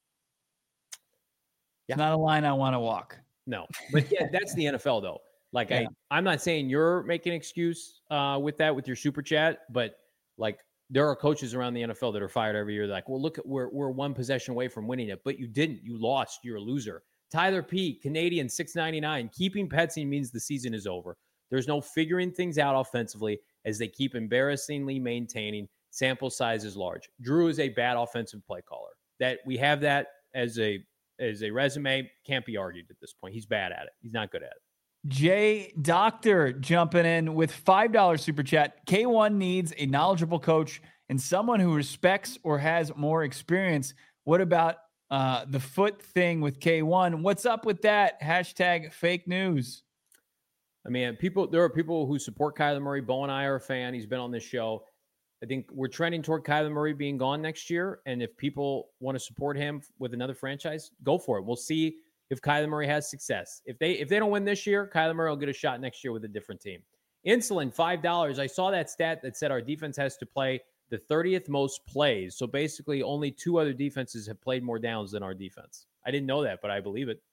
It's not a line I want to walk. No, but yeah, that's the NFL though. Like, yeah. I'm not saying you're making an excuse with your super chat, but like, there are coaches around the NFL that are fired every year. They're like, well, look, we're 1 possession away from winning it, but you didn't. You lost. You're a loser. Tyler P, Canadian, $6.99. Keeping Petsy means the season is over. There's no figuring things out offensively as they keep embarrassingly maintaining. Sample size is large. Drew is a bad offensive play caller. That we have that as a resume, can't be argued at this point. He's bad at it. He's not good at it. Jay Doctor jumping in with $5 super chat. K1 needs a knowledgeable coach and someone who respects or has more experience. What about the foot thing with K1? What's up with that? Hashtag fake news. I mean, there are people who support Kyler Murray. Bo and I are a fan. He's been on this show. I think we're trending toward Kyler Murray being gone next year. And if people want to support him with another franchise, go for it. We'll see if Kyler Murray has success. If they don't win this year, Kyler Murray will get a shot next year with a different team. Insulin, $5. I saw that stat that said our defense has to play the 30th most plays. So basically only 2 other defenses have played more downs than our defense. I didn't know that, but I believe it.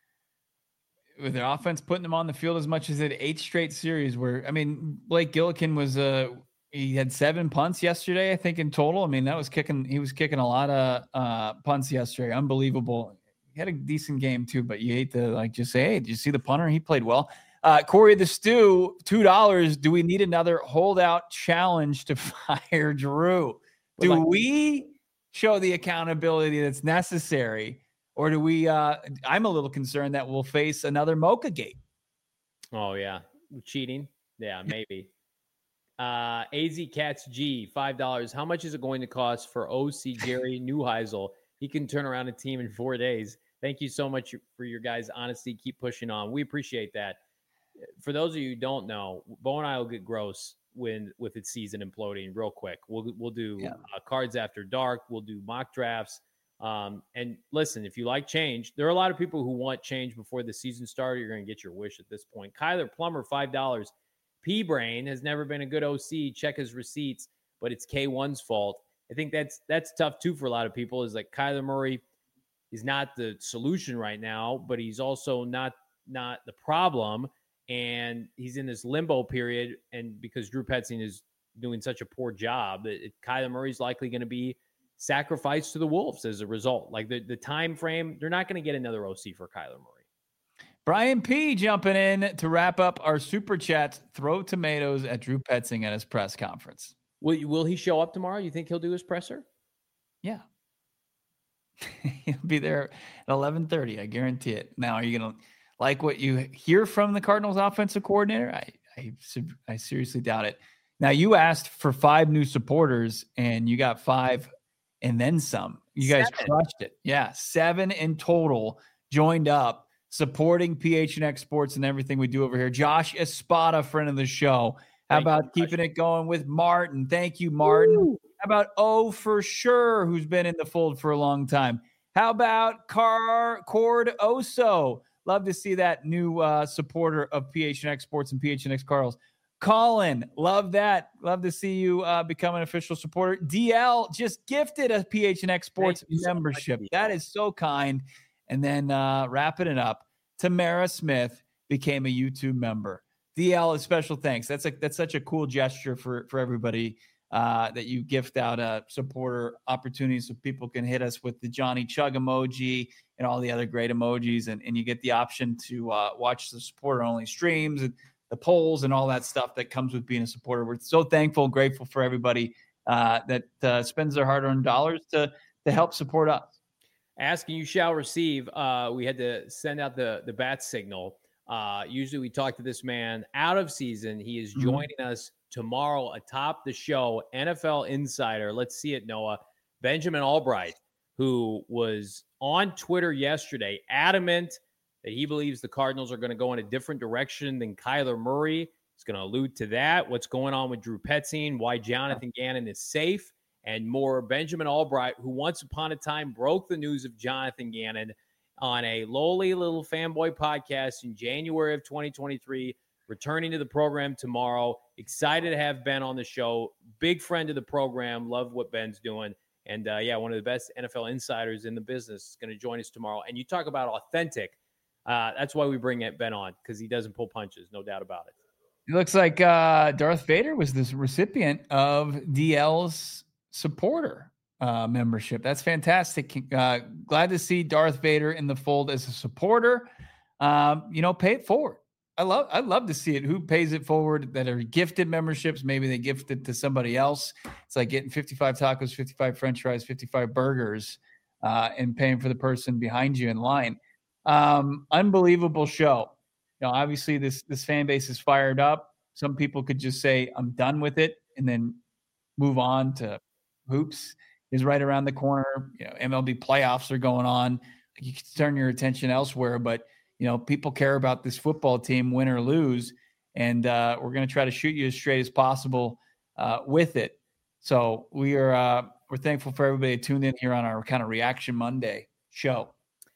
With their offense putting them on the field as much as it 8 straight series where, I mean, Blake Gillikin was he had 7 punts yesterday, I think, in total. I mean, he was kicking a lot of punts yesterday. Unbelievable. He had a decent game too, but you hate to just say, hey, did you see the punter? He played well. Corey the Stew, $2. Do we need another holdout challenge to fire Drew? Do we show the accountability that's necessary? Or do we, I'm a little concerned that we'll face another Mocha Gate. Oh, yeah. Cheating? Yeah, maybe. AZ Cats G, $5. How much is it going to cost for OC Jerry Neuheisel? He can turn around a team in 4 days. Thank you so much for your guys' honesty. Keep pushing on. We appreciate that. For those of you who don't know, Bo and I will get gross with its season imploding real quick. We'll do cards after dark. We'll do mock drafts. And listen, if you like change, there are a lot of people who want change before the season started. You're going to get your wish at this point. Kyler Plummer, $5. P-Brain has never been a good OC. Check his receipts, but it's K1's fault. I think that's tough too for a lot of people. Is like Kyler Murray is not the solution right now, but he's also not the problem. And he's in this limbo period. And because Drew Petzing is doing such a poor job, Kyler Murray's likely going to be sacrificed to the Wolves as a result. Like the time frame, they're not going to get another OC for Kyler Murray. Brian P. jumping in to wrap up our super chats. Throw tomatoes at Drew Petzing at his press conference. Will he show up tomorrow? You think he'll do his presser? Yeah. He'll be there at 11:30. I guarantee it. Now, are you going to like what you hear from the Cardinals offensive coordinator? I seriously doubt it. Now, you asked for 5 new supporters, and you got 5 and then some. You guys crushed it. Yeah, 7 in total joined up, supporting PHNX Sports and everything we do over here. Josh Espada, friend of the show. How about keeping it going with Martin? Thank you, Martin. Woo. How about Oh For Sure, who's been in the fold for a long time? How about Cord Oso? Love to see that new supporter of PHNX Sports and PHNX Cardinals. Colin, love that. Love to see you become an official supporter. DL just gifted a PHNX Sports membership. So that is so kind. And then wrapping it up, Tamara Smith became a YouTube member. DL, a special thanks. That's such a cool gesture for everybody that you gift out a supporter opportunity so people can hit us with the Johnny Chug emoji and all the other great emojis. And you get the option to watch the supporter-only streams and the polls and all that stuff that comes with being a supporter. We're so thankful and grateful for everybody that spends their hard-earned dollars to help support us. Asking you shall receive. We had to send out the bat signal. Usually we talk to this man out of season. He is joining us tomorrow atop the show, NFL Insider. Let's see it, Noah. Benjamin Albright, who was on Twitter yesterday, adamant that he believes the Cardinals are going to go in a different direction than Kyler Murray. He's going to allude to that, what's going on with Drew Petzing, why Jonathan Gannon is safe, and more. Benjamin Albright, who once upon a time broke the news of Jonathan Gannon on a lowly little fanboy podcast in January of 2023, returning to the program tomorrow. Excited to have Ben on the show. Big friend of the program. Love what Ben's doing. And, one of the best NFL insiders in the business is going to join us tomorrow. And you talk about authentic. That's why we bring Ben on, because he doesn't pull punches, no doubt about it. It looks like Darth Vader was this recipient of DL's supporter membership. That's fantastic. Glad to see Darth Vader in the fold as a supporter. Pay it forward. I'd love to see it. Who pays it forward that are gifted memberships? Maybe they gift it to somebody else. It's like getting 55 tacos, 55 French fries, 55 burgers, and paying for the person behind you in line. Unbelievable show. Obviously this fan base is fired up. Some people could just say, I'm done with it, and then move on to hoops is right around the corner. MLB playoffs are going on. You can turn your attention elsewhere, but people care about this football team, win or lose, and we're going to try to shoot you as straight as possible with it. So we're thankful for everybody tuned in here on our kind of Reaction Monday show.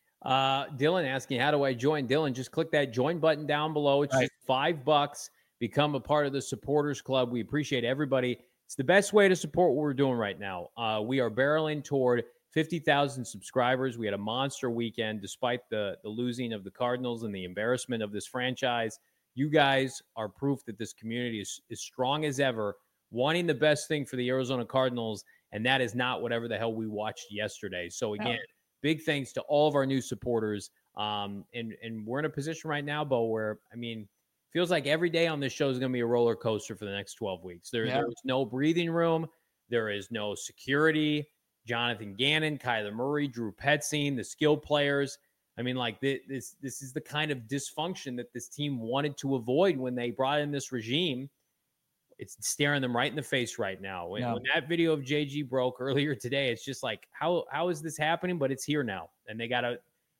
Dylan asking, how do I join? Dylan, just click that join button down below. It's just $5. Become a part of the supporters club. We appreciate everybody. It's the best way to support what we're doing right now. We are barreling toward 50,000 subscribers. We had a monster weekend despite the losing of the Cardinals and the embarrassment of this franchise. You guys are proof that this community is as strong as ever, wanting the best thing for the Arizona Cardinals, and that is not whatever the hell we watched yesterday. So again, big thanks to all of our new supporters. And we're in a position right now, Bo, where, feels like every day on this show is going to be a roller coaster for the next 12 weeks. There is no breathing room. There is no security. Jonathan Gannon, Kyler Murray, Drew Petzing, the skill players. This is the kind of dysfunction that this team wanted to avoid when they brought in this regime. It's staring them right in the face right now. When that video of JG broke earlier today, it's just like, how is this happening? But it's here now. And they got to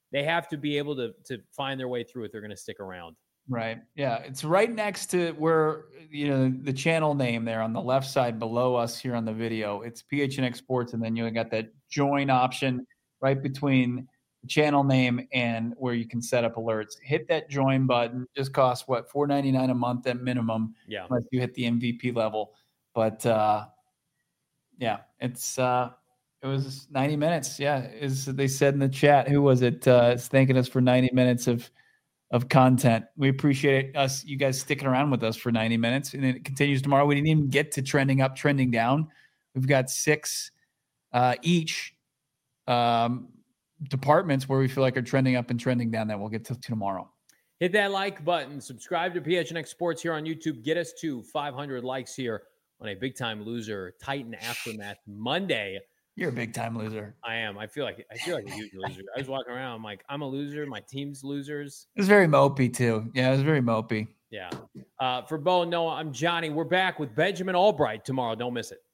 they have to be able to find their way through it. They're going to stick around. Right. Yeah. It's right next to where, the channel name there on the left side below us here on the video. It's PHNX Sports. And then you got that join option right between the channel name and where you can set up alerts. Hit that join button. Just costs what, $4.99 a month at minimum. Yeah. Unless you hit the MVP level. But yeah, it was 90 minutes. Yeah. As they said in the chat, who was it? It's thanking us for 90 minutes of content. We appreciate you guys sticking around with us for 90 minutes, and it continues tomorrow. We didn't even get to trending up, trending down. We've got 6 each departments where we feel like are trending up and trending down that we'll get to tomorrow. Hit that like button. Subscribe to PHNX Sports here on YouTube. Get us to 500 likes here on a Big Time Loser Titan Aftermath Monday. You're a big time loser. I am. I feel like a huge loser. I was walking around. I'm like, I'm a loser. My team's losers. It was very mopey too. Yeah, it was very mopey. Yeah. For Bo and Noah, I'm Johnny. We're back with Benjamin Albright tomorrow. Don't miss it.